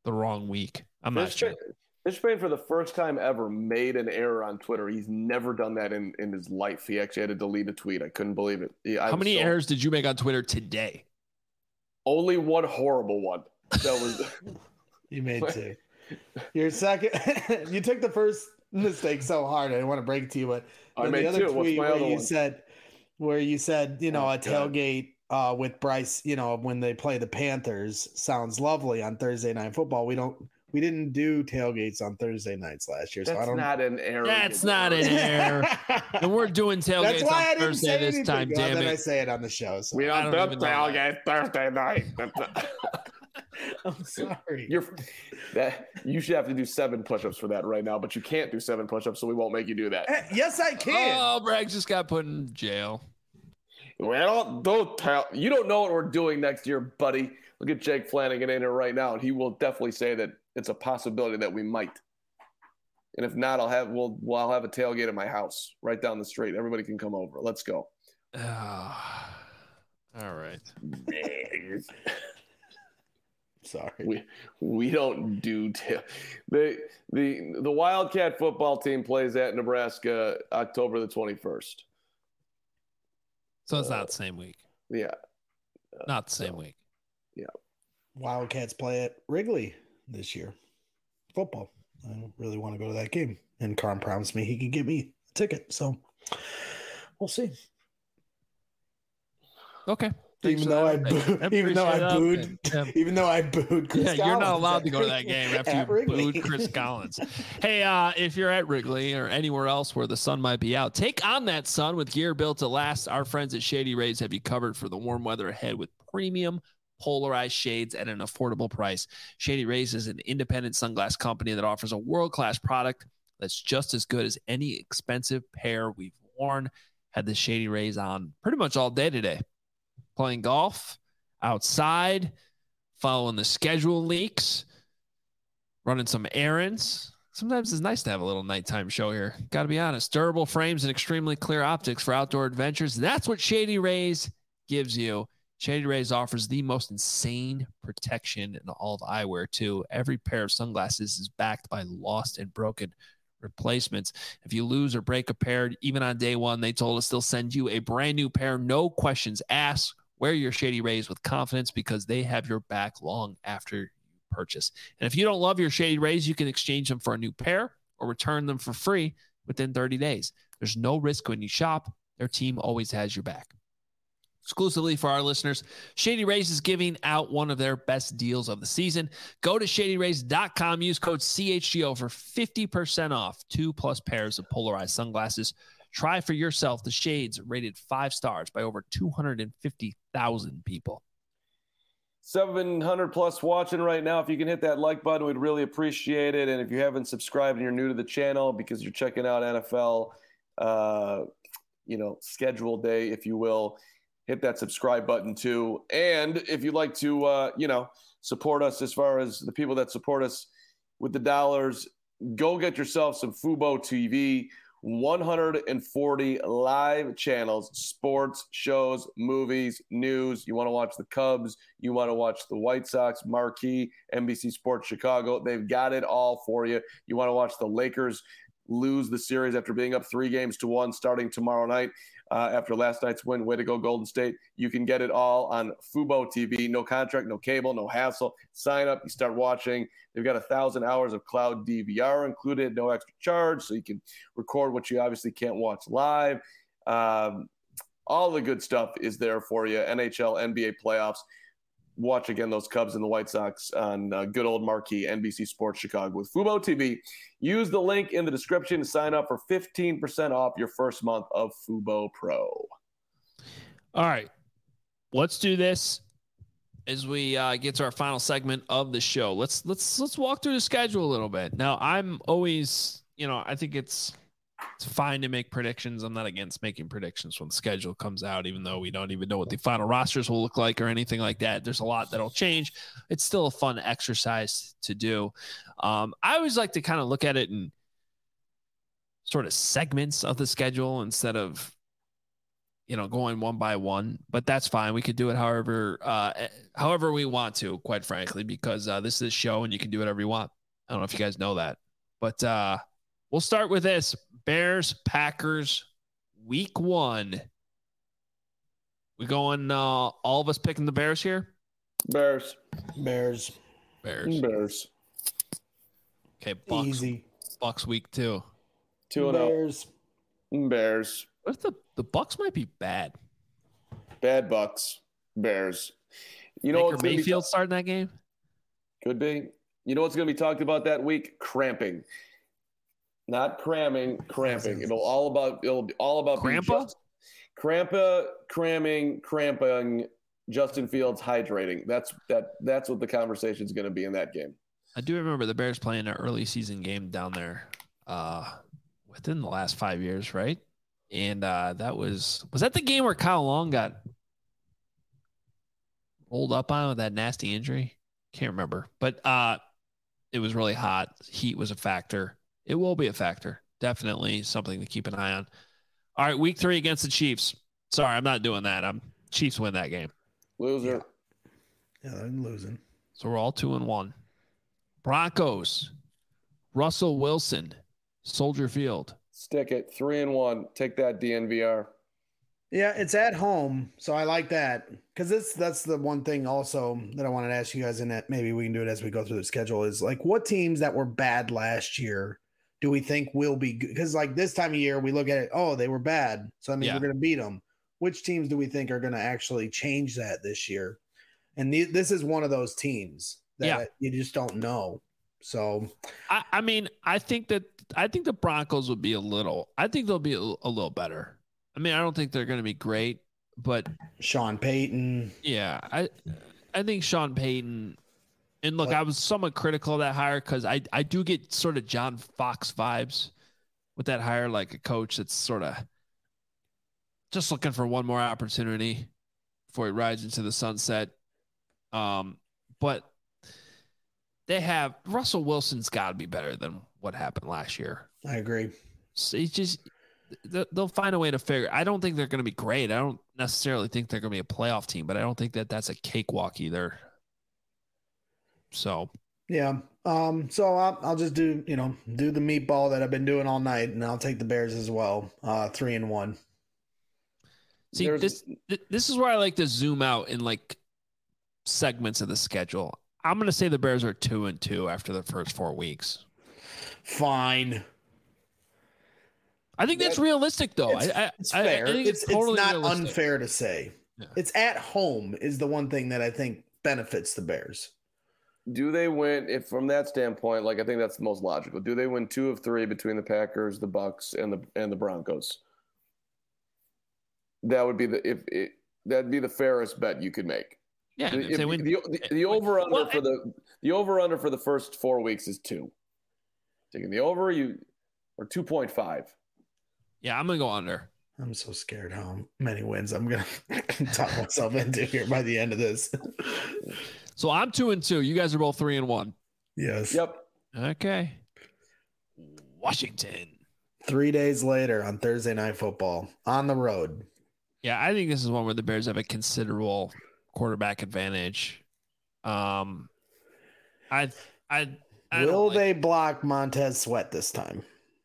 the wrong week. I'm not Fish sure. Spain, Fish Spain, for the first time ever, made an error on Twitter. He's never done that in, in his life. He actually had to delete a tweet. I couldn't believe it. He, How many so, errors did you make on Twitter today? Only one horrible one. That was You made two. Your second, you took the first mistake so hard. I didn't want to break it to you, but I made the other two. What's tweet my where other you one? said, where you said, you know, Oh, a tailgate uh, with Bryce, you know, when they play the Panthers sounds lovely on Thursday Night Football. We don't, we didn't do tailgates on Thursday nights last year, so I That's don't. not an error. That's not an error. And we're doing tailgates That's why I on didn't Thursday say this anything. time. Well, Damn then I it! say it on the show. So. We I don't don't do even know tailgate Thursday night. I'm sorry. You're that you should have to do seven push-ups for that right now, but you can't do seven push-ups, so we won't make you do that. Eh, yes, I can. Oh, Bragg just got put in jail. We don't don't tell you don't know what we're doing next year, buddy. Look at Jake Flanagan in here right now, and he will definitely say that it's a possibility that we might. And if not, I'll have we'll, well I'll have a tailgate at my house right down the street. Everybody can come over. Let's go. Oh, all right. Sorry. We we don't do ta- the the the Wildcat football team plays at Nebraska October the twenty-first. So it's not the same week. Yeah. Not the same week. Yeah. Wildcats play at Wrigley this year. Football. I don't really want to go to that game. And Carm promised me he could get me a ticket. So we'll see. Okay. Thanks Even for though I, that boo- update. even though I appreciate booed, that update. Yeah. even though I booed, Chris Yeah, you're not Collins allowed at to go to that Wrigley- game after at you Wrigley. booed Chris Collins. Hey, uh, if you're at Wrigley or anywhere else where the sun might be out, take on that sun with gear built to last. Our friends at Shady Rays have you covered for the warm weather ahead with premium polarized shades at an affordable price. Shady Rays is an independent sunglass company that offers a world-class product that's just as good as any expensive pair we've worn. Had the Shady Rays on pretty much all day today, playing golf, outside, following the schedule leaks, running some errands. Sometimes it's nice to have a little nighttime show here. Got to be honest. Durable frames and extremely clear optics for outdoor adventures. That's what Shady Rays gives you. Shady Rays offers the most insane protection in all of eyewear, too. Every pair of sunglasses is backed by lost and broken replacements. If you lose or break a pair, even on day one, they told us they'll send you a brand new pair. No questions asked. Wear your Shady Rays with confidence because they have your back long after you purchase. And if you don't love your Shady Rays, you can exchange them for a new pair or return them for free within thirty days. There's no risk when you shop. Their team always has your back. Exclusively for our listeners, Shady Rays is giving out one of their best deals of the season. Go to shady rays dot com. Use code C H G O for fifty percent off two plus pairs of polarized sunglasses. Try for yourself the shades rated five stars by over two hundred fifty thousand people. seven hundred plus watching right now. If you can hit that like button, we'd really appreciate it. And if you haven't subscribed and you're new to the channel because you're checking out N F L, uh, you know, schedule day, if you will, hit that subscribe button too. And if you'd like to, uh, you know, support us as far as the people that support us with the dollars, go get yourself some Fubo T V. one hundred forty live channels, sports, shows, movies, news. You want to watch the Cubs. You want to watch the White Sox, Marquee, N B C Sports Chicago. They've got it all for you. You want to watch the Lakers lose the series after being up three games to one starting tomorrow night uh, after last night's win. Way to go, Golden State. You can get it all on Fubo T V. No contract, no cable, no hassle. Sign up. You start watching. They've got a thousand hours of cloud D V R included, no extra charge, so you can record what you obviously can't watch live. Um, all the good stuff is there for you. N H L, N B A playoffs. Watch again those Cubs and the White Sox on uh, good old marquee N B C Sports Chicago with Fubo T V. Use the link in the description to sign up for fifteen percent off your first month of Fubo Pro. All right, let's do this as we uh, get to our final segment of the show. Let's let's let's walk through the schedule a little bit. Now, I'm always, you know, I think it's it's fine to make predictions. I'm not against making predictions when the schedule comes out, even though we don't even know what the final rosters will look like or anything like that. There's a lot that'll change. It's still a fun exercise to do. Um, I always like to kind of look at it in sort of segments of the schedule instead of, you know, going one by one, but that's fine. We could do it however, uh, however we want to, quite frankly, because uh, this is a show and you can do whatever you want. I don't know if you guys know that, but uh, we'll start with this: Bears, Packers, week one. We going, uh, all of us picking the Bears here? Bears. Bears. Bears. Bears. Okay, Bucks. Easy. Bucks week two. Two and Bears. oh. Bears. What if the, the Bucks might be bad? Bad Bucks. Bears. You know Baker what's gonna Mayfield be starting that game? Could be. You know what's going to be talked about that week? Cramping. Not cramming, cramping. It'll all about it'll be all about being Crampa? just- Crampa, cramming, cramping, Justin Fields hydrating. That's that that's what the conversation is going to be in that game. I do remember the Bears playing an early season game down there uh, within the last five years, right? And uh, that was was that the game where Kyle Long got rolled up on with that nasty injury? Can't remember, but uh, it was really hot. Heat was a factor. It will be a factor. Definitely something to keep an eye on. All right, week three against the Chiefs. Sorry, I'm not doing that. I'm Chiefs win that game. Loser. Yeah, they're losing. So we're all two and one. Broncos, Russell Wilson, Soldier Field. Stick it. Three and one. Take that, D N V R. Yeah, it's at home, so I like that because this that's the one thing also that I wanted to ask you guys, and that maybe we can do it as we go through the schedule is like what teams that were bad last year do we think will be good? Because like this time of year we look at it, oh, they were bad, so I mean Yeah. we're going to beat them. Which teams do we think are going to actually change that this year? And the, this is one of those teams that Yeah. you just don't know. So I, I mean, I think that I think the Broncos will be a little. I think they'll be a, a little better. I mean, I don't think they're going to be great, but Sean Payton, yeah, I I think Sean Payton. And look, But- I was somewhat critical of that hire because I I do get sort of John Fox vibes with that hire, like a coach that's sort of just looking for one more opportunity before he rides into the sunset. Um, but they have Russell Wilson's got to be better than what happened last year. I agree. So it's just they- they'll find a way to figure. I don't think they're going to be great. I don't necessarily think they're going to be a playoff team, but I don't think that that's a cakewalk either. So Yeah. Um, so I'll, I'll just do, you know, do the meatball that I've been doing all night, and I'll take the Bears as well. Uh, three and one. see There's- this th- this is where I like to zoom out in like segments of the schedule. I'm going to say the Bears are two and two after the first four weeks. Fine. I think that's That- realistic, though. It's, I, I, it's I- I fair. think it's, totally it's not realistic. unfair to say. Yeah. It's at home is the one thing that I think benefits the Bears. Do they win? If from that standpoint, like I think that's the most logical. Do they win two of three between the Packers, the Bucks, and the and the Broncos? That would be the if it that'd be the fairest bet you could make. Yeah, The, if if- they win, the, the, the over under Well, for the the over under for the first four weeks is two. Taking the over, you or two point five. yeah, I'm going to go under. I'm so scared how many wins I'm going to talk myself into here by the end of this. So I'm two and two. You guys are both three and one. Yes. Yep. Okay. Washington. Three days later on Thursday Night Football on the road. Yeah, I think this is one where the Bears have a considerable quarterback advantage. Um, I, I, I don't Will like- they block Montez Sweat this time?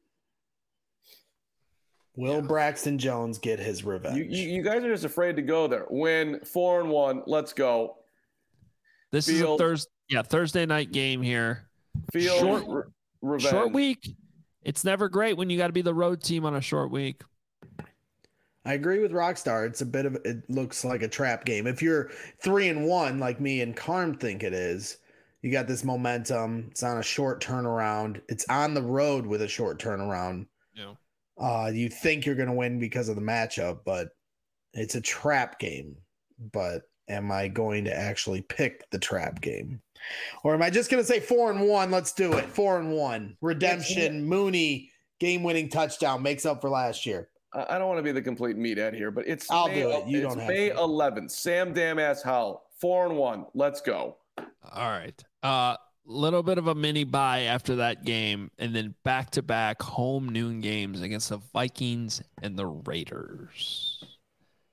Will Yeah. Braxton Jones get his revenge? You, you you guys are just afraid to go there. Win four and one. Let's go. This is a Field. Thursday, yeah, Thursday night game here. Field Short- re- revenge. Short week. It's never great when you got to be the road team on a short week. I agree with Rockstar. It's a bit of it looks like a trap game. If you're three and one, like me and Carm think it is, you got this momentum. It's on a short turnaround. It's on the road with a short turnaround. Yeah. Uh, you think you're going to win because of the matchup, but it's a trap game. But am I going to actually pick the trap game? Or am I just going to say four and one? Let's do it. Four and one. Redemption, Mooney, game winning touchdown makes up for last year. I I don't want to be the complete meathead here, but it's I'll May, do it. You it's don't have May to. eleventh. Sam Damn Ass Howell. Four and one. Let's go. All right. Uh, little bit of a mini bye after that game, and then back to back home noon games against the Vikings and the Raiders.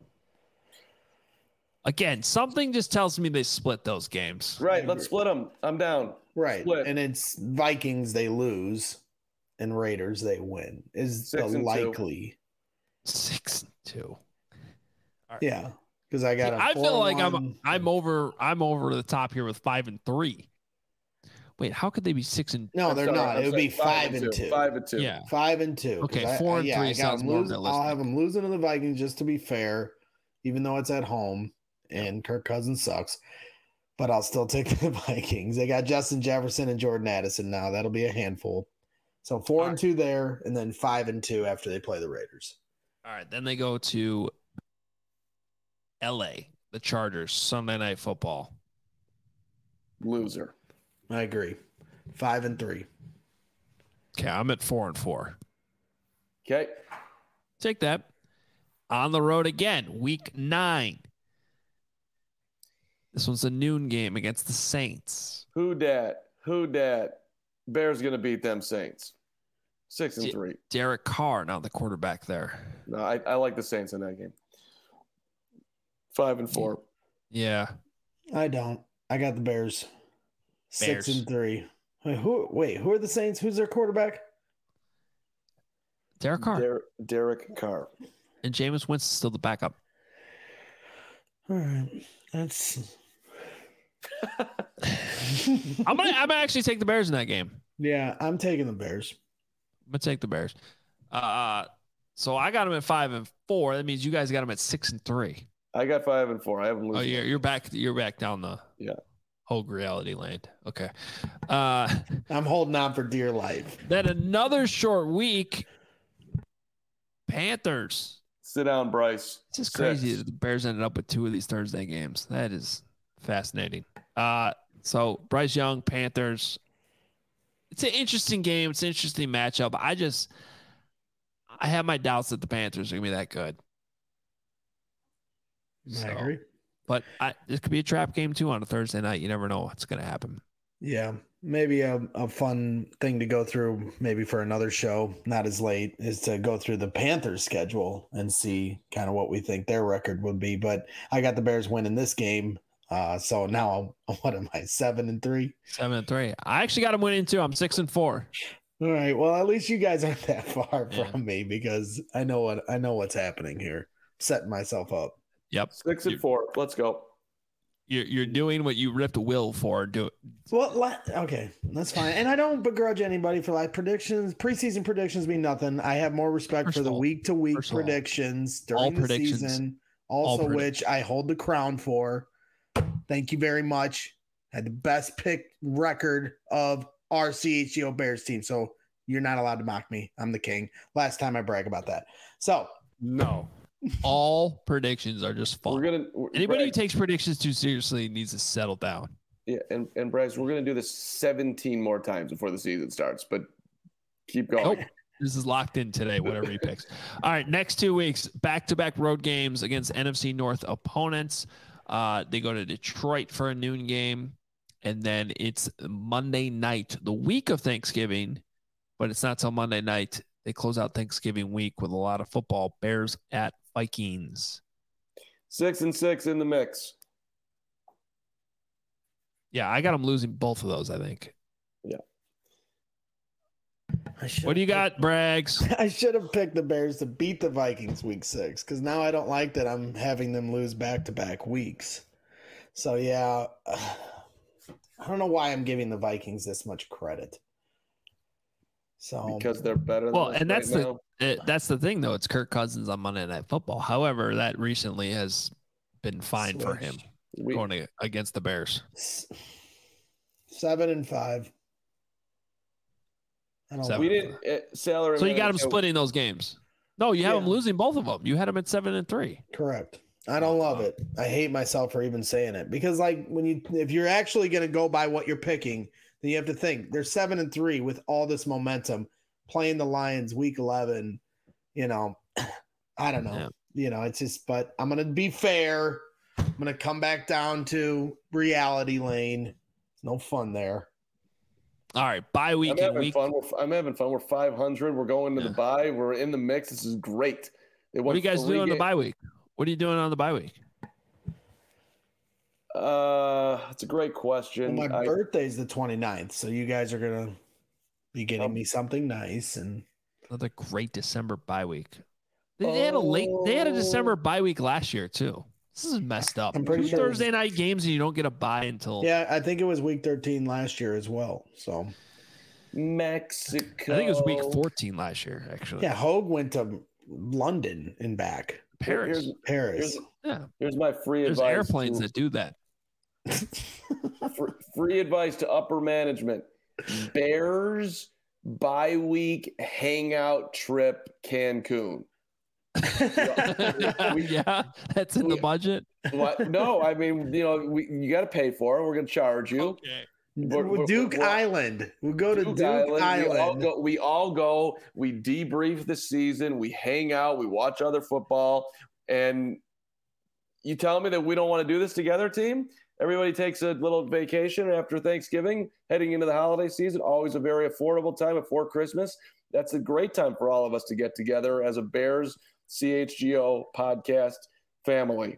Again, something just tells me they split those games. Right. Let's split them. I'm down. Right. Split. And it's Vikings they lose and Raiders they win is Six the and two. likely. Six and two. Yeah. Because I got See, a I feel like I'm four one. I'm over I'm over the top here with five and three. Wait, how could they be six and No, I'm they're sorry, not. I'm It would sorry. be five and two. Five and two. yeah. Five and two. 'Cause Okay, I- four I- and yeah, three I got sounds them more losing- I'll realistic. have them losing to the Vikings just to be fair, even though it's at home and Kirk Cousins sucks. But I'll still take the Vikings. They got Justin Jefferson and Jordan Addison now. That'll be a handful. So four All and right. two there, and then five and two after they play the Raiders. All right, then they go to L A, the Chargers, Sunday Night Football. Loser. I agree. Five and three. Okay, I'm at four and four. Okay. Take that. On the road again, week nine. This one's a noon game against the Saints. Who dat? Who dat? Bears gonna beat them Saints. Six and Yeah. three. Derek Carr, now the quarterback there. No, I, I like the Saints in that game. Five and four. Yeah. I don't. I got the Bears. Six Bears. and three. Wait, who? Wait, who are the Saints? Who's their quarterback? Derek Carr. Der- Derek Carr. And Jameis Winston's still the backup. All right, that's. I'm gonna I'm gonna actually take the Bears in that game. Yeah, I'm taking the Bears. I'm gonna take the Bears. Uh so I got them at five and four. That means you guys got them at six and three. I got five and four. I haven't Oh, losing. you're you're back you're back down the Yeah. Hogue reality land. Okay. Uh I'm holding on for dear life. then another short week. Panthers. Sit down, Bryce. It's just Six. crazy that the Bears ended up with two of these Thursday games. That is fascinating. Uh, so Bryce Young, Panthers. It's an interesting game. It's an interesting matchup. I just, I have my doubts that the Panthers are gonna be that good. So, I agree. but I, this could be a trap game too on a Thursday night. You never know what's gonna happen. Yeah, maybe a, a fun thing to go through, maybe for another show, not as late, is to go through the Panthers schedule and see kind of what we think their record would be. But I got the Bears winning this game. Uh, so now, what am I, seven and three? Seven and three. I actually got them winning too. I'm six and four. All right. Well, at least you guys aren't that far Yeah. from me because I know what I know what's happening here. Setting myself up. Yep. Six and You- four. Let's go. You're you're doing what you ripped Will for. Do Well, let, okay, that's fine. And I don't begrudge anybody for like predictions. Preseason predictions mean nothing. I have more respect First for of the all- week to week first of all, predictions all during the predictions- season, all also predict- which I hold the crown for. Thank you very much. Had the best pick record of our C H G O Bears team. So you're not allowed to mock me. I'm the king. Last time I brag about that. So no. All predictions are just fun. We're gonna we're- Anybody who Bryce, takes predictions too seriously needs to settle down. yeah, and, and Bryce, we're gonna do this seventeen more times before the season starts, but keep going. Nope. This is locked in today, whatever he picks. All right, next two weeks, back-to-back road games against N F C North opponents. Uh, they go to Detroit for a noon game, and then it's Monday night, the week of Thanksgiving, but it's not till Monday night. They close out Thanksgiving week with a lot of football. Bears at Vikings. Six and six in the mix. Yeah, I got them losing both of those, I think. I should What do you got, Braggs? I should have picked the Bears to beat the Vikings week six because now I don't like that I'm having them lose back to back weeks. So, yeah, I don't know why I'm giving the Vikings this much credit. So, Because they're better than Well, us and that's right the now. it, that's the thing, though. It's Kirk Cousins on Monday Night Football. However, that recently has been fine for him Switched. We, going to, against the Bears. s- seven and five. I don't Seven. we like didn't uh, salary. So you got him manager- splitting those games. No, you have Yeah. them losing both of them. You had them at seven and three. that. Correct. I don't love it. I hate myself for even saying it because, like, when you if you're actually going to go by what you're picking, then you have to think they're seven and three with all this momentum playing the Lions week eleven. You know, I don't know. Yeah. You know, it's just. But I'm going to be fair. I'm going to come back down to reality lane. There's no fun there. All right, bye week I'm and having week. fun. We're, I'm having fun. We're five hundred. We're going to Yeah. the bye. We're in the mix. This is great. They What are won you guys three doing on the ga- bye week? What are you doing on the bye week? Uh, it's a great Well, question. my I, birthday's the twenty-ninth, so you guys are gonna be getting Um, me something nice. And Another great December bye week. They, they had a late. They had a December bye week last year too. This is messed up. I'm pretty Two sure it was- Thursday night games and you don't get a bye until. yeah, I think it was week thirteen last year as well. So Mexico. I think it was week fourteen last year, actually. yeah, Hogue went to London and back. Paris. Here's, Paris. here's, yeah. here's my free There's advice. airplanes to, that do that. free, free advice to upper management. Bears bye week hangout trip Cancun. yeah, that's in the we- budget. What? No, I mean, you know, we, you got to pay for it. We're going to charge you. Okay. We're- we're- Duke we're- Island. We'll go to Duke Duke Island. Island. We all go. We all go. We debrief the season. We hang out. We watch other football. And you telling me that we don't want to do this together, team? Everybody takes a little vacation after Thanksgiving, heading into the holiday season. Always a very affordable time before Christmas. That's a great time for all of us to get together as a Bears C H G O podcast family.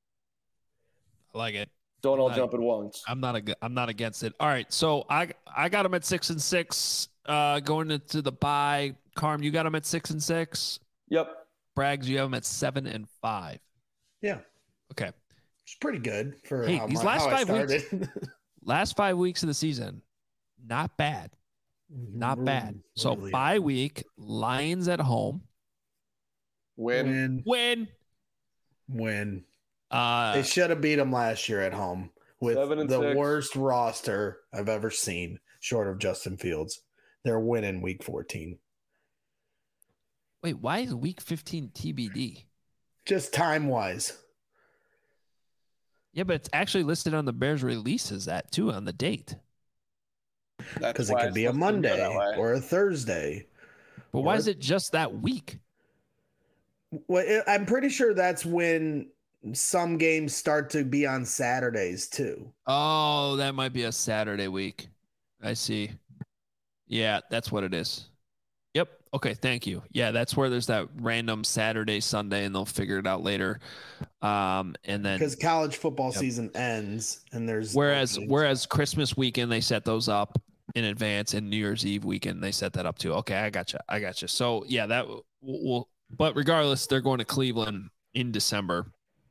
I like it. Don't all Right. jump at once. I'm not a, I'm not against it. All right, so I I got them at six and six. Uh, going into the bye. Carm, you got them at six and six. Yep. Braggs, you have them at seven and five. Yeah, Okay. it's pretty good for Hey, how, these my, last how I five weeks- started. Last five weeks of the season, not bad. Not bad. So Really. bye week, Lions at home. Win. win, Win. win. Uh, They should have beat them last year at home with Seven and the six. worst roster I've ever seen, short of Justin Fields. They're winning week fourteen. wait, why is week fifteen T B D? Just time wise. Yeah, but it's actually listed on the Bears release as that too on the date. That's Because it why could it's be a supposed to go Monday that way. or a Thursday. But why Or- is it just that week? Well, it, I'm pretty sure that's when some games start to be on Saturdays too. Oh, that might be a Saturday week. I see. Yeah, that's what it is. Yep. Okay. Thank you. Yeah, that's where there's that random Saturday, Sunday, and they'll figure it out later. Um, and then Because college football Yep. season ends and there's whereas openings. whereas Christmas weekend they set those up in advance, and New Year's Eve weekend they set that up too. Okay, I gotcha. I gotcha. So yeah, that will. will but regardless, they're going to Cleveland in December,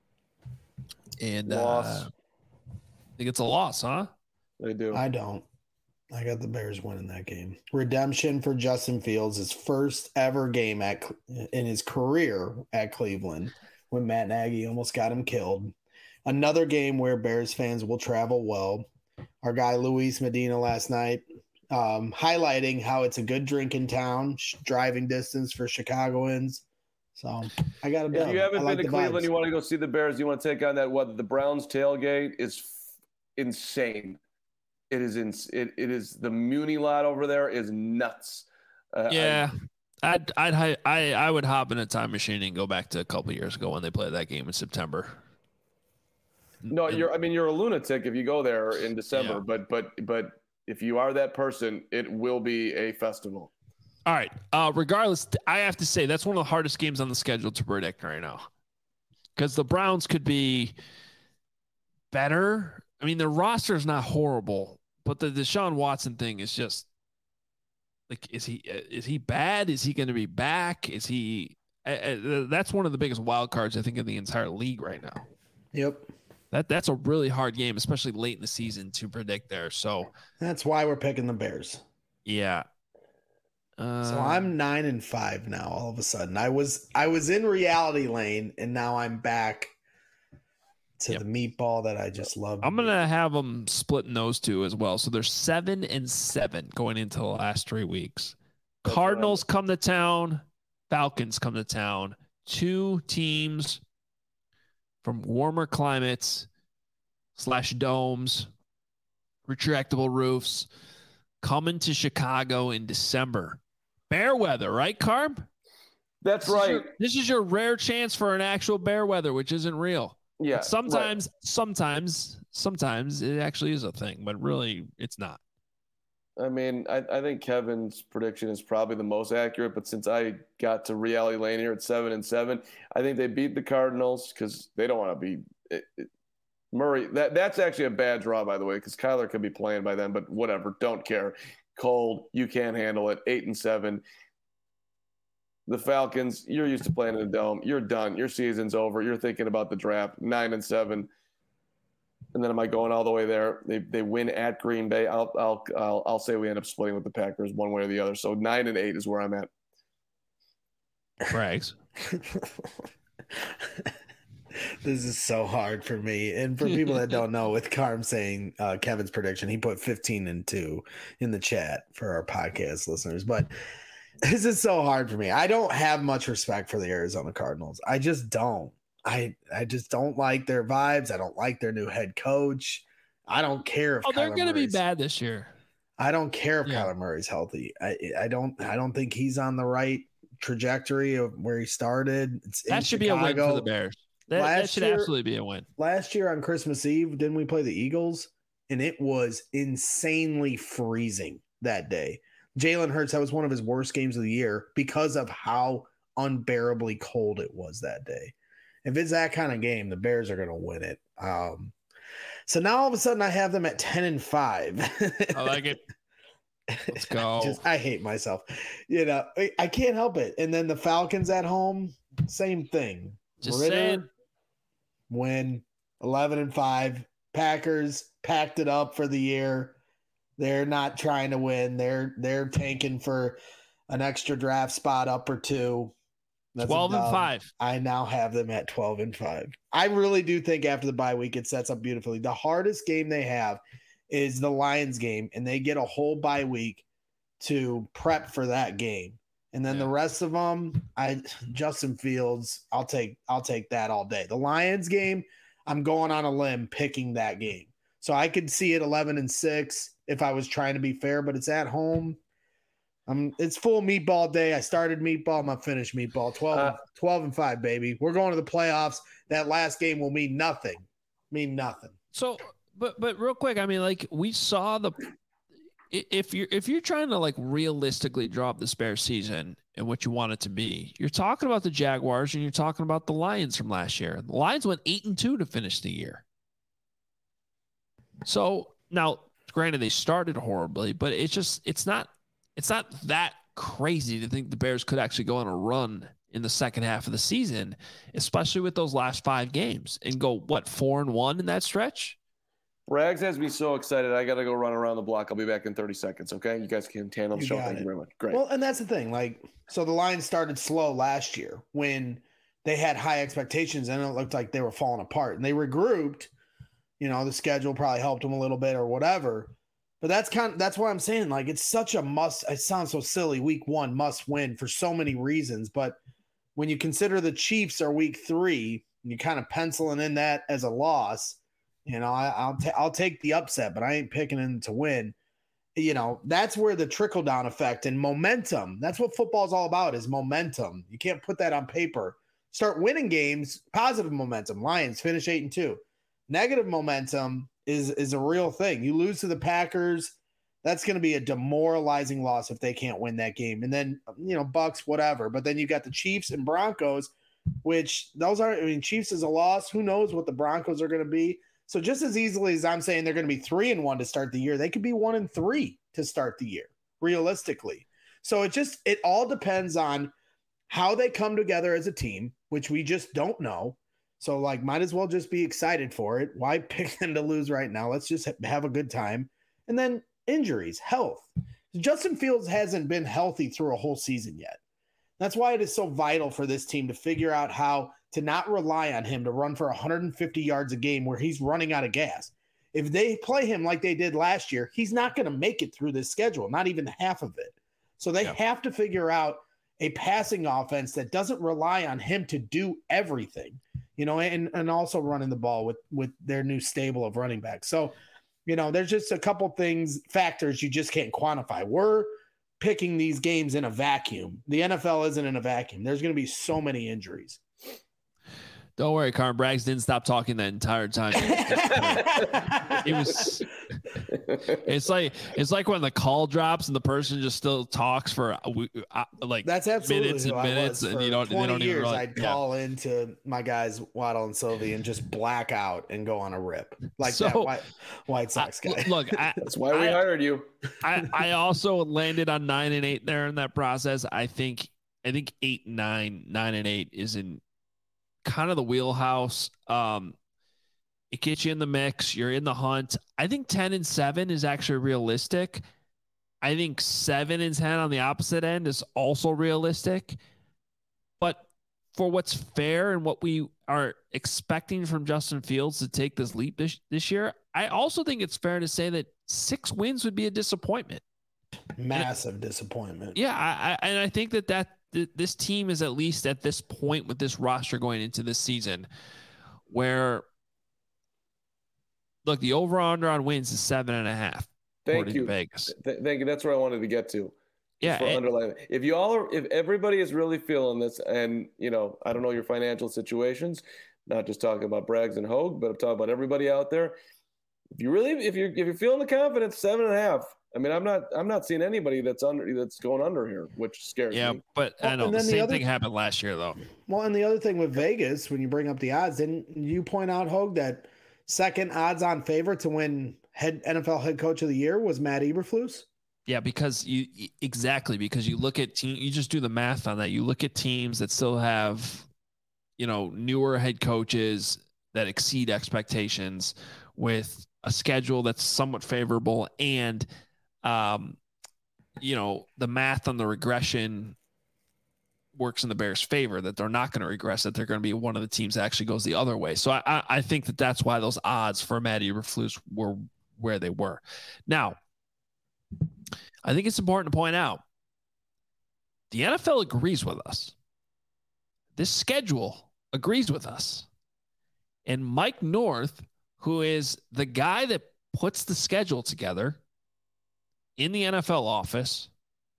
and Loss. uh, I think it's a loss, huh? They do. I don't. I got the Bears winning that game. Redemption for Justin Fields, his first ever game at in his career at Cleveland, when Matt Nagy almost got him killed. Another game where Bears fans will travel well. Our guy Luis Medina last night, um, highlighting how it's a good drinking town, sh- driving distance for Chicagoans. So I got a If dub. you haven't I like been to the Cleveland, vibes. you want to go see the Bears, you want to take on that what the Browns tailgate is f- insane. It is in, it, it is the Muni lot over there is nuts. Uh, Yeah, I'd I'd hi- I I would hop in a time machine and go back to a couple years ago when they played that game in September. I, no, And- you're I mean you're a lunatic if you go there in December, Yeah. but but but if you are that person, it will be a festival. All right. Uh, regardless, I have to say that's one of the hardest games on the schedule to predict right now, because the Browns could be better. I mean, their roster is not horrible, but the Deshaun Watson thing is just like, is he is he bad? Is he going to be back? Is he? Uh, uh, that's one of the biggest wild cards I think in the entire league right now. Yep. That that's a really hard game, especially late in the season to predict there. So That's why we're picking the Bears. yeah. Uh, So I'm nine and five now. All of a sudden, I was I was in reality lane, and now I'm back to Yep. the meatball that I just love. I'm gonna have them splitting those two as well. So they're seven and seven going into the last three weeks. That's Cardinals come to town. Falcons come to town. Two teams from warmer climates slash domes, retractable roofs, coming to Chicago in December. Bear weather, right, Carb? That's This is right. your- this is your rare chance for an actual bear weather, which isn't real. Yeah. But sometimes, sometimes, sometimes it actually is a thing, but really it's not. right. I mean, I, I think Kevin's prediction is probably the most accurate, but since I got to reality lane here at seven and seven, I think they beat the Cardinals because they don't want to be. It, it, Murray, that, that's actually a bad draw, by the way, because Kyler could be playing by then, but whatever. Don't care. Cold. You can't handle it. Eight and seven. The Falcons, you're used to playing in a dome. You're done. Your season's over. You're thinking about the draft. Nine and seven. And then am I going all the way there? They they win at Green Bay. I'll I'll I'll, I'll say we end up splitting with the Packers one way or the other. So nine and eight is where I'm at. Brags. This is so hard for me. And for people that don't know, with Carm saying uh, Kevin's prediction, he put fifteen and two in the chat for our podcast listeners. But this is so hard for me. I don't have much respect for the Arizona Cardinals. I just don't. I I just don't like their vibes. I don't like their new head coach. I don't care if Oh, they're Kyler going to be Murray's- bad this year. I don't care if Yeah. Kyler Murray's healthy. I I don't I don't think he's on the right trajectory of where he started. It's in That should be a win Chicago. for the Bears. That, that Last should year- absolutely be a win. Last year on Christmas Eve, didn't we play the Eagles? And it was insanely freezing that day. Jalen Hurts, that was one of his worst games of the year because of how unbearably cold it was that day. If it's that kind of game, the Bears are going to win it. Um, so now all of a sudden I have them at ten and five. I like it. Let's go. Just, I hate myself. You know, I, I can't help it. And then the Falcons at home, same thing. Just Ritter, saying. win eleven and five. Packers packed it up for the year. They're not trying to win. They're they're tanking for an extra draft spot up or two. That's a twelve and dub. five. I now have them at twelve and five. I really do think after the bye week, it sets up beautifully. The hardest game they have is the Lions game, and they get a whole bye week to prep for that game. And then Yeah. the rest of them, I Justin Fields, I'll take I'll take that all day. The Lions game, I'm going on a limb picking that game. So I could see it eleven and six if I was trying to be fair, but it's at home. Um, it's full meatball day. I started meatball, I'm gonna finish meatball. twelve, Uh, twelve and five, baby. We're going to the playoffs. That last game will mean nothing. Mean nothing. So, but but real quick, I mean, like we saw the i- if you're if you're trying to like realistically draw up this Bears season and what you want it to be, you're talking about the Jaguars and you're talking about the Lions from last year. The Lions went eight and two to finish the year. So now, granted, they started horribly, but it's just it's not it's not that crazy to think the Bears could actually go on a run in the second half of the season, especially with those last five games, and go what four and one in that stretch. Rags has me so excited. I got to go run around the block. I'll be back in thirty seconds. Okay. You guys can handle the You show. got Thank it. you very much. Great. Well, and that's the thing. Like, so the Lions started slow last year when they had high expectations and it looked like they were falling apart, and they regrouped. You know, the schedule probably helped them a little bit or whatever. But that's kind of, that's what I'm saying. Like, it's such a must. It sounds so silly. Week one must win for so many reasons. But when you consider the Chiefs are week three, and you kind of penciling in that as a loss, you know, I, I'll ta- I'll take the upset, but I ain't picking them to win. You know, that's where the trickle down effect and momentum. That's what football is all about, is momentum. You can't put that on paper. Start winning games, positive momentum. Lions finish eight and two. Negative momentum is is a real thing. You lose to the Packers, that's going to be a demoralizing loss if they can't win that game. And then, you know, Bucks, whatever. But then you got the Chiefs and Broncos, which those are, I mean, Chiefs is a loss. Who knows what the Broncos are going to be? So just as easily as I'm saying they're going to be three and one to start the year, they could be one and three to start the year, realistically. So it just, it all depends on how they come together as a team, which we just don't know. So, like, might as well just be excited for it. Why pick them to lose right now? Let's just have a good time. And then injuries, health. Justin Fields hasn't been healthy through a whole season yet. That's why it is so vital for this team to figure out how to not rely on him to run for one hundred fifty yards a game where he's running out of gas. If they play him like they did last year, he's not going to make it through this schedule, not even half of it. So they Yeah. have to figure out a passing offense that doesn't rely on him to do everything. You know, and, and also running the ball with, with their new stable of running backs. So, you know, there's just a couple things, factors you just can't quantify. We're picking these games in a vacuum. The N F L isn't in a vacuum. There's going to be so many injuries. Don't worry, Carm. Braggs didn't stop talking that entire time. It was It's like it's like when the call drops and the person just still talks for uh, like that's absolutely minutes and who minutes, I was. and For you don't. They don't years, even really, I'd yeah. call into my guys Waddle and Sylvie and just black out and go on a rip like So, that White, White Sox I, guy. Look, I, That's why we I, hired you. I I also landed on nine and eight there in that process. I think I think eight and nine, nine and eight is in kind of the wheelhouse. Um, it gets you in the mix. You're in the hunt. I think ten and seven is actually realistic. I think seven and ten on the opposite end is also realistic. But for what's fair and what we are expecting from Justin Fields to take this leap this, this year, I also think it's fair to say that six wins would be a disappointment. Massive and, disappointment. Yeah, I, I, and I think that, that th- this team is at least at this point with this roster going into this season where, look, the over-under on wins is seven and a half. Thank you, Vegas. Th- thank you. That's where I wanted to get to. Yeah. And, underline. If you all are, if everybody is really feeling this, and you know, I don't know your financial situations, not just talking about Braggs and Hogue, but I'm talking about everybody out there. If you really, if you're, if you're feeling the confidence, seven and a half. I mean, I'm not, I'm not seeing anybody that's under, that's going under here, which scares yeah, me. But well, I know the the same other, thing happened last year, though. Well, and the other thing with Vegas, when you bring up the odds, didn't you point out, Hogue, that second odds-on favorite to win head N F L head coach of the year was Matt Eberflus? Yeah, because you exactly because you look at team, you just do the math on that. You look at teams that still have, you know, newer head coaches that exceed expectations with a schedule that's somewhat favorable, and um, you know, the math on the regression works in the Bears' favor, that they're not going to regress, that they're going to be one of the teams that actually goes the other way. So I, I think that that's why those odds for Matt Eberflus were where they were. Now, I think it's important to point out the N F L agrees with us. This schedule agrees with us. And Mike North, who is the guy that puts the schedule together in the N F L office,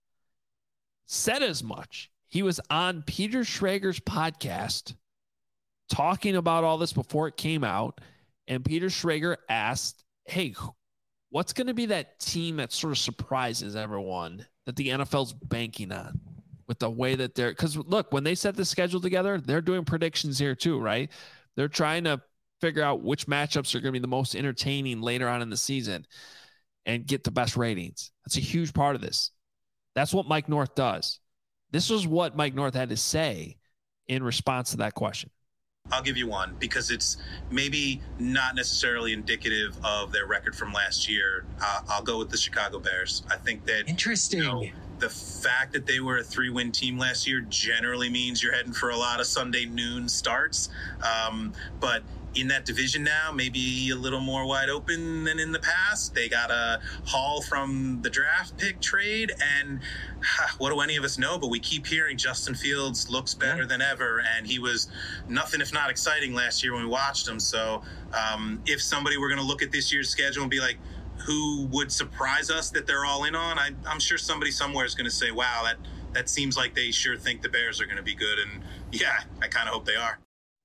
said as much. He was on Peter Schrager's podcast talking about all this before it came out. And Peter Schrager asked, hey, what's going to be that team that sort of surprises everyone that the N F L's banking on with the way that they're, because look, when they set the schedule together, they're doing predictions here too, right? They're trying to figure out which matchups are going to be the most entertaining later on in the season and get the best ratings. That's a huge part of this. That's what Mike North does. This was what Mike North had to say in response to that question. I'll give you one because it's maybe not necessarily indicative of their record from last year. Uh, I'll go with the Chicago Bears. I think that interesting. You know, the fact that they were a three-win team last year generally means you're heading for a lot of Sunday noon starts. Um, but in that division now, maybe a little more wide open than in the past. They got a haul from the draft pick trade, and huh, what do any of us know? But we keep hearing Justin Fields looks better than ever, and he was nothing if not exciting last year when we watched him. So um, if somebody were going to look at this year's schedule and be like, who would surprise us that they're all in on, I, I'm sure somebody somewhere is going to say, wow, that, that seems like they sure think the Bears are going to be good. And yeah, I kind of hope they are.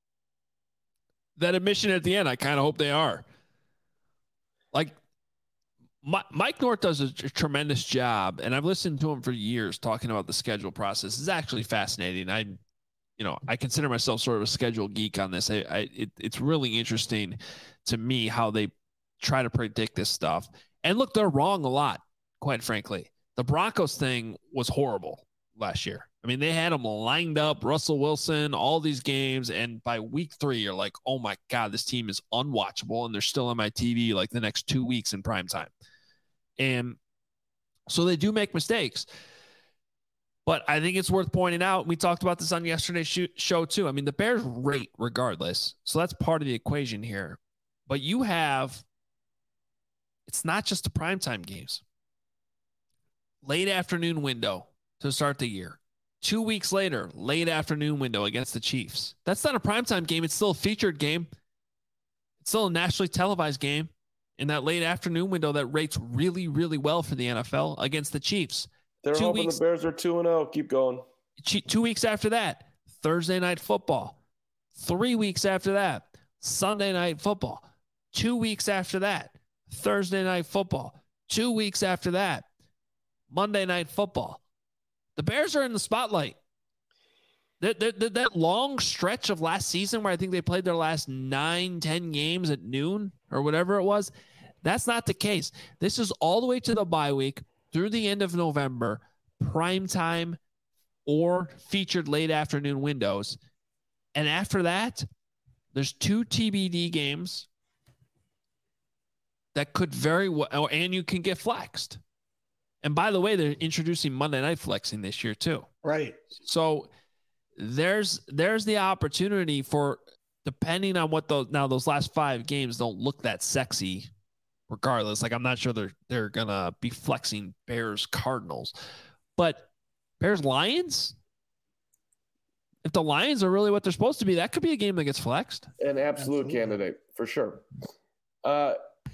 That admission at the end, I kind of hope they are. Like, My, Mike North does a, a tremendous job, and I've listened to him for years talking about the schedule process. It's actually fascinating. I, you know, I consider myself sort of a schedule geek on this. I, I it, it's really interesting to me how they try to predict this stuff. And look, they're wrong a lot, quite frankly. The Broncos thing was horrible last year. I mean, they had them lined up, Russell Wilson, all these games. And by week three, you're like, oh my God, this team is unwatchable. And they're still on my T V like the next two weeks in prime time. And so they do make mistakes. But I think it's worth pointing out. We talked about this on yesterday's show too. I mean, the Bears rate regardless. So that's part of the equation here. But you have, it's not just the primetime games. Late afternoon window to start the year. Two weeks later, late afternoon window against the Chiefs. That's not a primetime game. It's still a featured game. It's still a nationally televised game in that late afternoon window that rates really, really well for the N F L against the Chiefs. They're two hoping weeks, the Bears are two and oh. Keep going. Two weeks after that, Thursday night football. Three weeks after that, Sunday night football. Two weeks after that, Thursday Night Football. Two weeks after that, Monday Night Football. The Bears are in the spotlight. That, that, that long stretch of last season where I think they played their last nine, ten games at noon or whatever it was, that's not the case. This is all the way to the bye week through the end of November, prime time or featured late afternoon windows. And after that, there's two T B D games that could very well, and you can get flexed. And by the way, they're introducing Monday Night Flexing this year too. Right. So there's there's the opportunity for, depending on what those now those last five games don't look that sexy regardless. Like I'm not sure they're they're gonna be flexing Bears Cardinals, but Bears Lions, if the Lions are really what they're supposed to be, that could be a game that gets flexed. An absolute Absolutely. candidate for sure. Uh,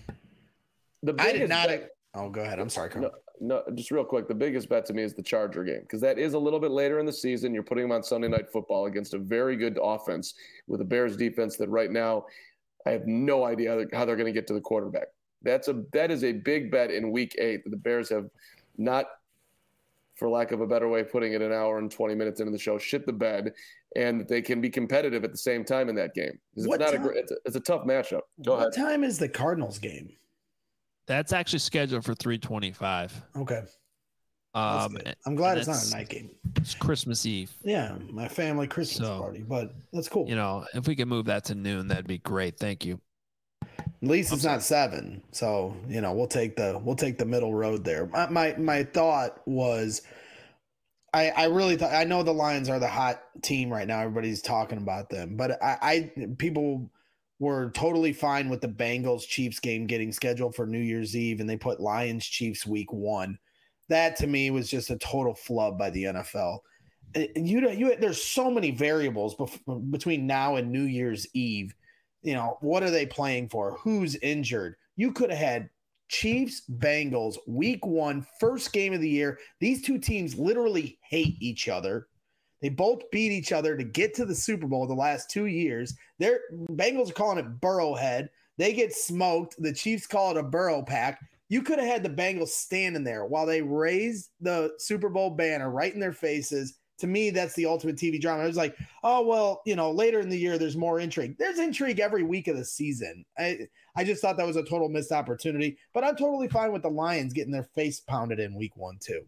the I did not. Bet, oh, go ahead. I'm sorry, Carl. No, no, just real quick. The biggest bet to me is the Charger game because that is a little bit later in the season. You're putting them on Sunday Night Football against a very good offense with a Bears defense that right now I have no idea how they're, how they're going to get to the quarterback. That's a that is a big bet in Week Eight that the Bears have not, for lack of a better way of putting it, an hour and twenty minutes into the show, shit the bed, and that they can be competitive at the same time in that game. It's what not time? a it's, a it's a tough matchup. Go what ahead. What time is the Cardinals game? That's actually scheduled for three twenty-five. Okay. Um, I'm glad it's not a night game. It's Christmas Eve. Yeah, my family Christmas so, party, but that's cool. You know, if we can move that to noon, that'd be great. Thank you. At least it's not seven, so you know we'll take the we'll take the middle road there. My my, my thought was, I I really thought I know the Lions are the hot team right now. Everybody's talking about them, but I, I people were totally fine with the Bengals Chiefs game getting scheduled for New Year's Eve, and they put Lions Chiefs week one. That to me was just a total flub by the N F L. You you there's so many variables bef- between now and New Year's Eve. You know, what are they playing for? Who's injured? You could have had Chiefs, Bengals, week one, first game of the year. These two teams literally hate each other. They both beat each other to get to the Super Bowl the last two years. Their Bengals are calling it Burrowhead. They get smoked. The Chiefs call it a Burrow pack. You could have had the Bengals standing there while they raised the Super Bowl banner right in their faces. To me, that's the ultimate T V drama. I was like, oh, well, you know, later in the year, there's more intrigue. There's intrigue every week of the season. I, I just thought that was a total missed opportunity. But I'm totally fine with the Lions getting their face pounded in week one, too.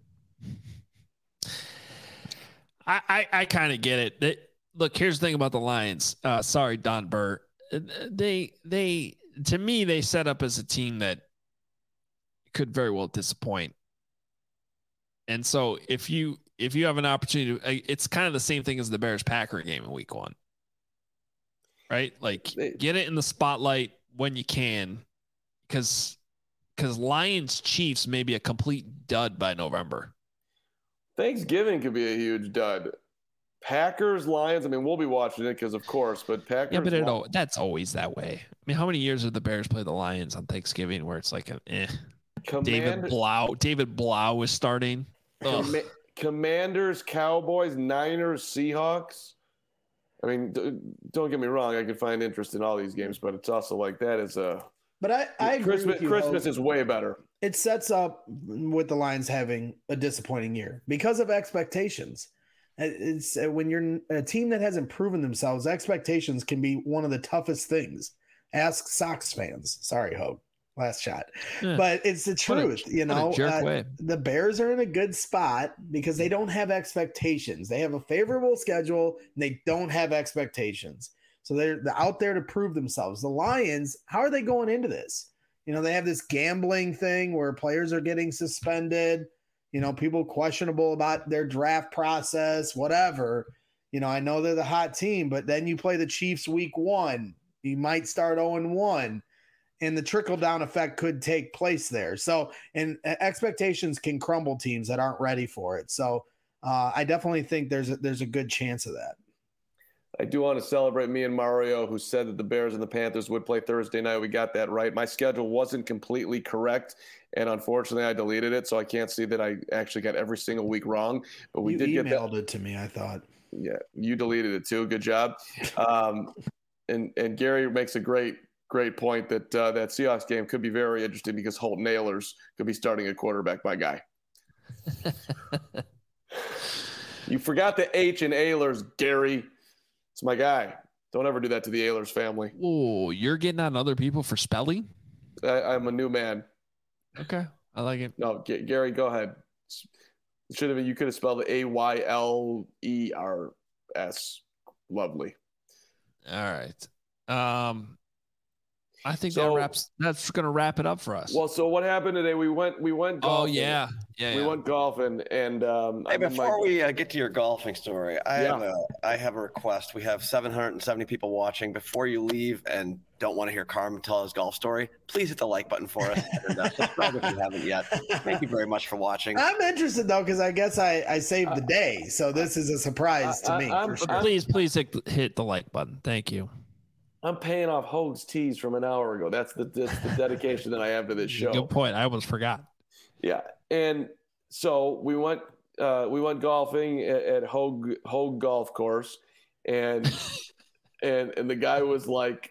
I, I, I kind of get it. They, look, here's the thing about the Lions. Uh, sorry, Don Burr. They, they, to me, they set up as a team that could very well disappoint. And so if you, if you have an opportunity to, it's kind of the same thing as the Bears Packer game in week one, right? Like get it in the spotlight when you can, because, because Lions Chiefs may be a complete dud by November. Thanksgiving could be a huge dud. Packers, Lions. I mean, we'll be watching it because, of course, but Packers. Yeah, but it, that's always that way. I mean, how many years have the Bears played the Lions on Thanksgiving where it's like an eh? Command- David Blau. David Blau was starting. Com- Commanders, Cowboys, Niners, Seahawks. I mean, d- don't get me wrong. I could find interest in all these games, but it's also like that is a. But I, I agree Christmas, with you, Christmas Hope. is way better. It sets up with the Lions having a disappointing year because of expectations. It's when you're a team that hasn't proven themselves, expectations can be one of the toughest things. Ask Sox fans. Sorry, Hope. Last shot. Yeah. But it's the truth. A, you know, uh, the Bears are in a good spot because they don't have expectations. They have a favorable schedule and they don't have expectations. So they're, they're out there to prove themselves. The Lions, how are they going into this? You know, they have this gambling thing where players are getting suspended, you know, people questionable about their draft process, whatever. You know, I know they're the hot team, but then you play the Chiefs week one. You might start oh and one, and the trickle-down effect could take place there. So, and expectations can crumble teams that aren't ready for it. So uh, I definitely think there's a, there's a good chance of that. I do want to celebrate me and Mario, who said that the Bears and the Panthers would play Thursday night. We got that right. My schedule wasn't completely correct, and unfortunately, I deleted it, so I can't see that I actually got every single week wrong. But we you did get that. Emailed it to me, I thought. Yeah, you deleted it too. Good job. Um, and and Gary makes a great great point that uh, that Seahawks game could be very interesting because Holton Ahlers could be starting a quarterback, my guy. You forgot the H in Ahlers, Gary. It's my guy. Don't ever do that to the Ahlers family. Oh, you're getting on other people for spelling? I, I'm a new man. Okay, I like it. No, G- Gary, go ahead. It should have been. You could have spelled it A Y L E R S. Lovely. All right. Um, I think So- that wraps. That's going to wrap it up for us. Well, so what happened today? We went. We went. oh Golfing. yeah, yeah. We yeah. went golfing, and um, Hey, I mean, before my- we uh, get to your golfing story, I Yeah. have a I have a request. We have seven hundred seventy people watching. Before you leave and don't want to hear Carmen tell his golf story, please hit the like button for us and uh, subscribe if you haven't yet. Thank you very much for watching. I'm interested though because I guess I I saved the day, so this is a surprise to I- me. I'm- for sure. But please, please hit, hit the like button. Thank you. I'm paying off Hoag's tees from an hour ago. That's the that's the dedication that I have to this show. Good point. I almost forgot. Yeah, and so we went uh, we went golfing at, at Hoag Hoag Golf Course, and and and the guy was like,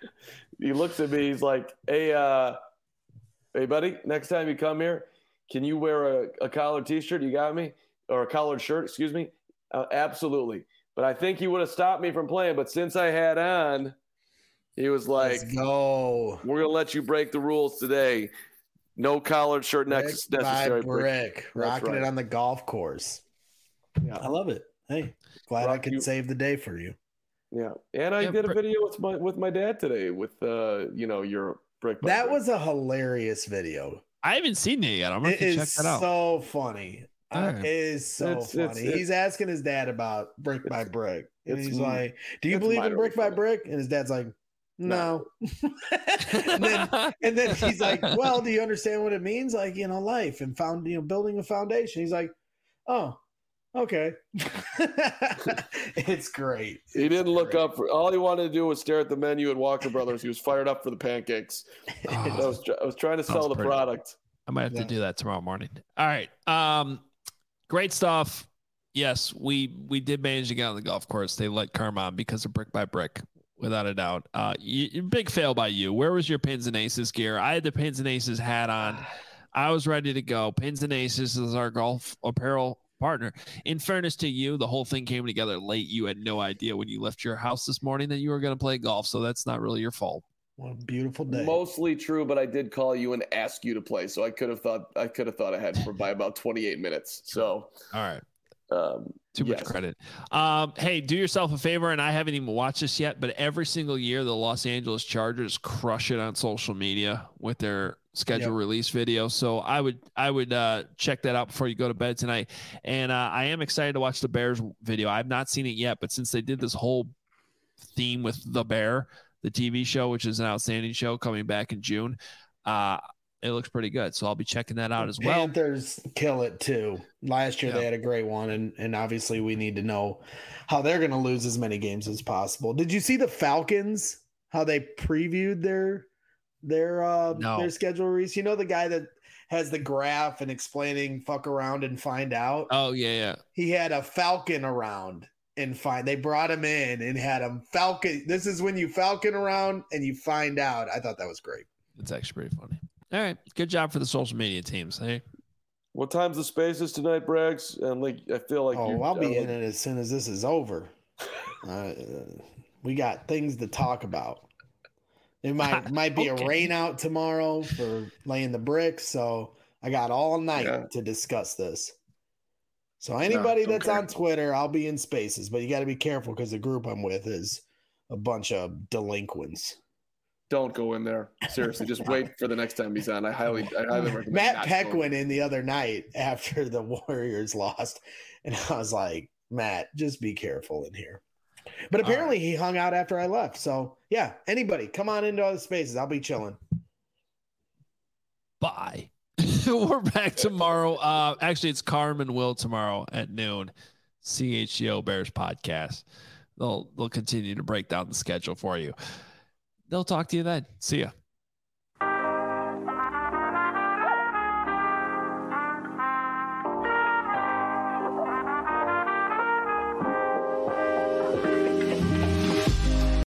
he looks at me, he's like, hey, uh, hey, buddy, next time you come here, can you wear a, a collared T-shirt? You got me, or a collared shirt? Excuse me. Uh, absolutely. But I think he would have stopped me from playing. But since I had on, he was like, Let's go. we're gonna let you break the rules today. No collared shirt Brick next by necessary. brick, That's rocking right. it on the golf course. Yeah. I love it. Hey, glad I Rock could you- save the day for you. Yeah, and I Yeah, did a brick- video with my with my dad today with uh you know your brick. by That brick. was a hilarious video. I haven't seen it yet. I'm going It to check is that out. so funny. Uh, Alright. it is so It's- funny. it's- it's- He's asking his dad about brick by it's- brick, and it's he's m- like, "Do you it's believe in minorly brick by funny. brick?" And his dad's like, "No." No. and then and then he's like, "Well, do you understand what it means? Like, you know, life and found, you know, building a foundation." He's like, "Oh, okay." It's great. He didn't look great. up for all he wanted to do was stare at the menu at Walker Brothers. He was fired up for the pancakes. I Oh, was tr- I was trying to sell Sounds the pretty good. product. I might have Yeah. to do that tomorrow morning. All right. Um, great stuff. Yes, we we did manage to get on the golf course. They let Carm on because of brick by brick, without a doubt. Uh, you, big fail by you. Where was your Pins and Aces gear? I had the Pins and Aces hat on. I was ready to go. Pins and Aces is our golf apparel partner. In fairness to you, the whole thing came together late. You had no idea when you left your house this morning that you were going to play golf, so that's not really your fault. What a beautiful day. Mostly true, but I did call you and ask you to play, so I could have thought I could have thought ahead for by about twenty-eight minutes. So All right. um, Too much yes. credit. Um, hey, do yourself a favor, and I haven't even watched this yet, but every single year the Los Angeles Chargers crush it on social media with their schedule Yep. release video. So I would I would uh, check that out before you go to bed tonight. And uh, I am excited to watch the Bears video. I've not seen it yet, but since they did this whole theme with the Bear, the T V show, which is an outstanding show coming back in June, uh, it looks pretty good. So I'll be checking that out as well. Panthers kill it too. Last year Yeah. they had a great one, and and obviously we need to know how they're going to lose as many games as possible. Did you see the Falcons? How they previewed their their uh No. their schedule release? You know the guy that has the graph and explaining fuck around and find out. Oh, yeah, yeah. He had a Falcon around and find. They brought him in and had him Falcon. This is when you Falcon around and you find out. I thought that was great. It's actually pretty funny. All right. Good job for the social media teams. Hey. what time's the spaces tonight, Braggs? And like I feel like Oh, you, I'll be uh, in it as soon as this is over. Uh, we got things to talk about. It might might be Okay. a rain out tomorrow for laying the bricks, so I got all night Yeah. to discuss this. So anybody that's okay. on Twitter, I'll be in spaces, but you got to be careful because the group I'm with is a bunch of delinquents. Don't go in there. Seriously, just wait for the next time he's on. I highly, I highly recommend. Matt not Peck going. went in the other night after the Warriors lost, and I was like, Matt, just be careful in here. But All apparently he hung out after I left. So yeah, anybody come on into other spaces. I'll be chilling. Bye. We're back tomorrow. Uh, actually, it's Carm and Will tomorrow at noon. C H G O Bears podcast. They'll they'll continue to break down the schedule for you. They'll talk to you then. See ya.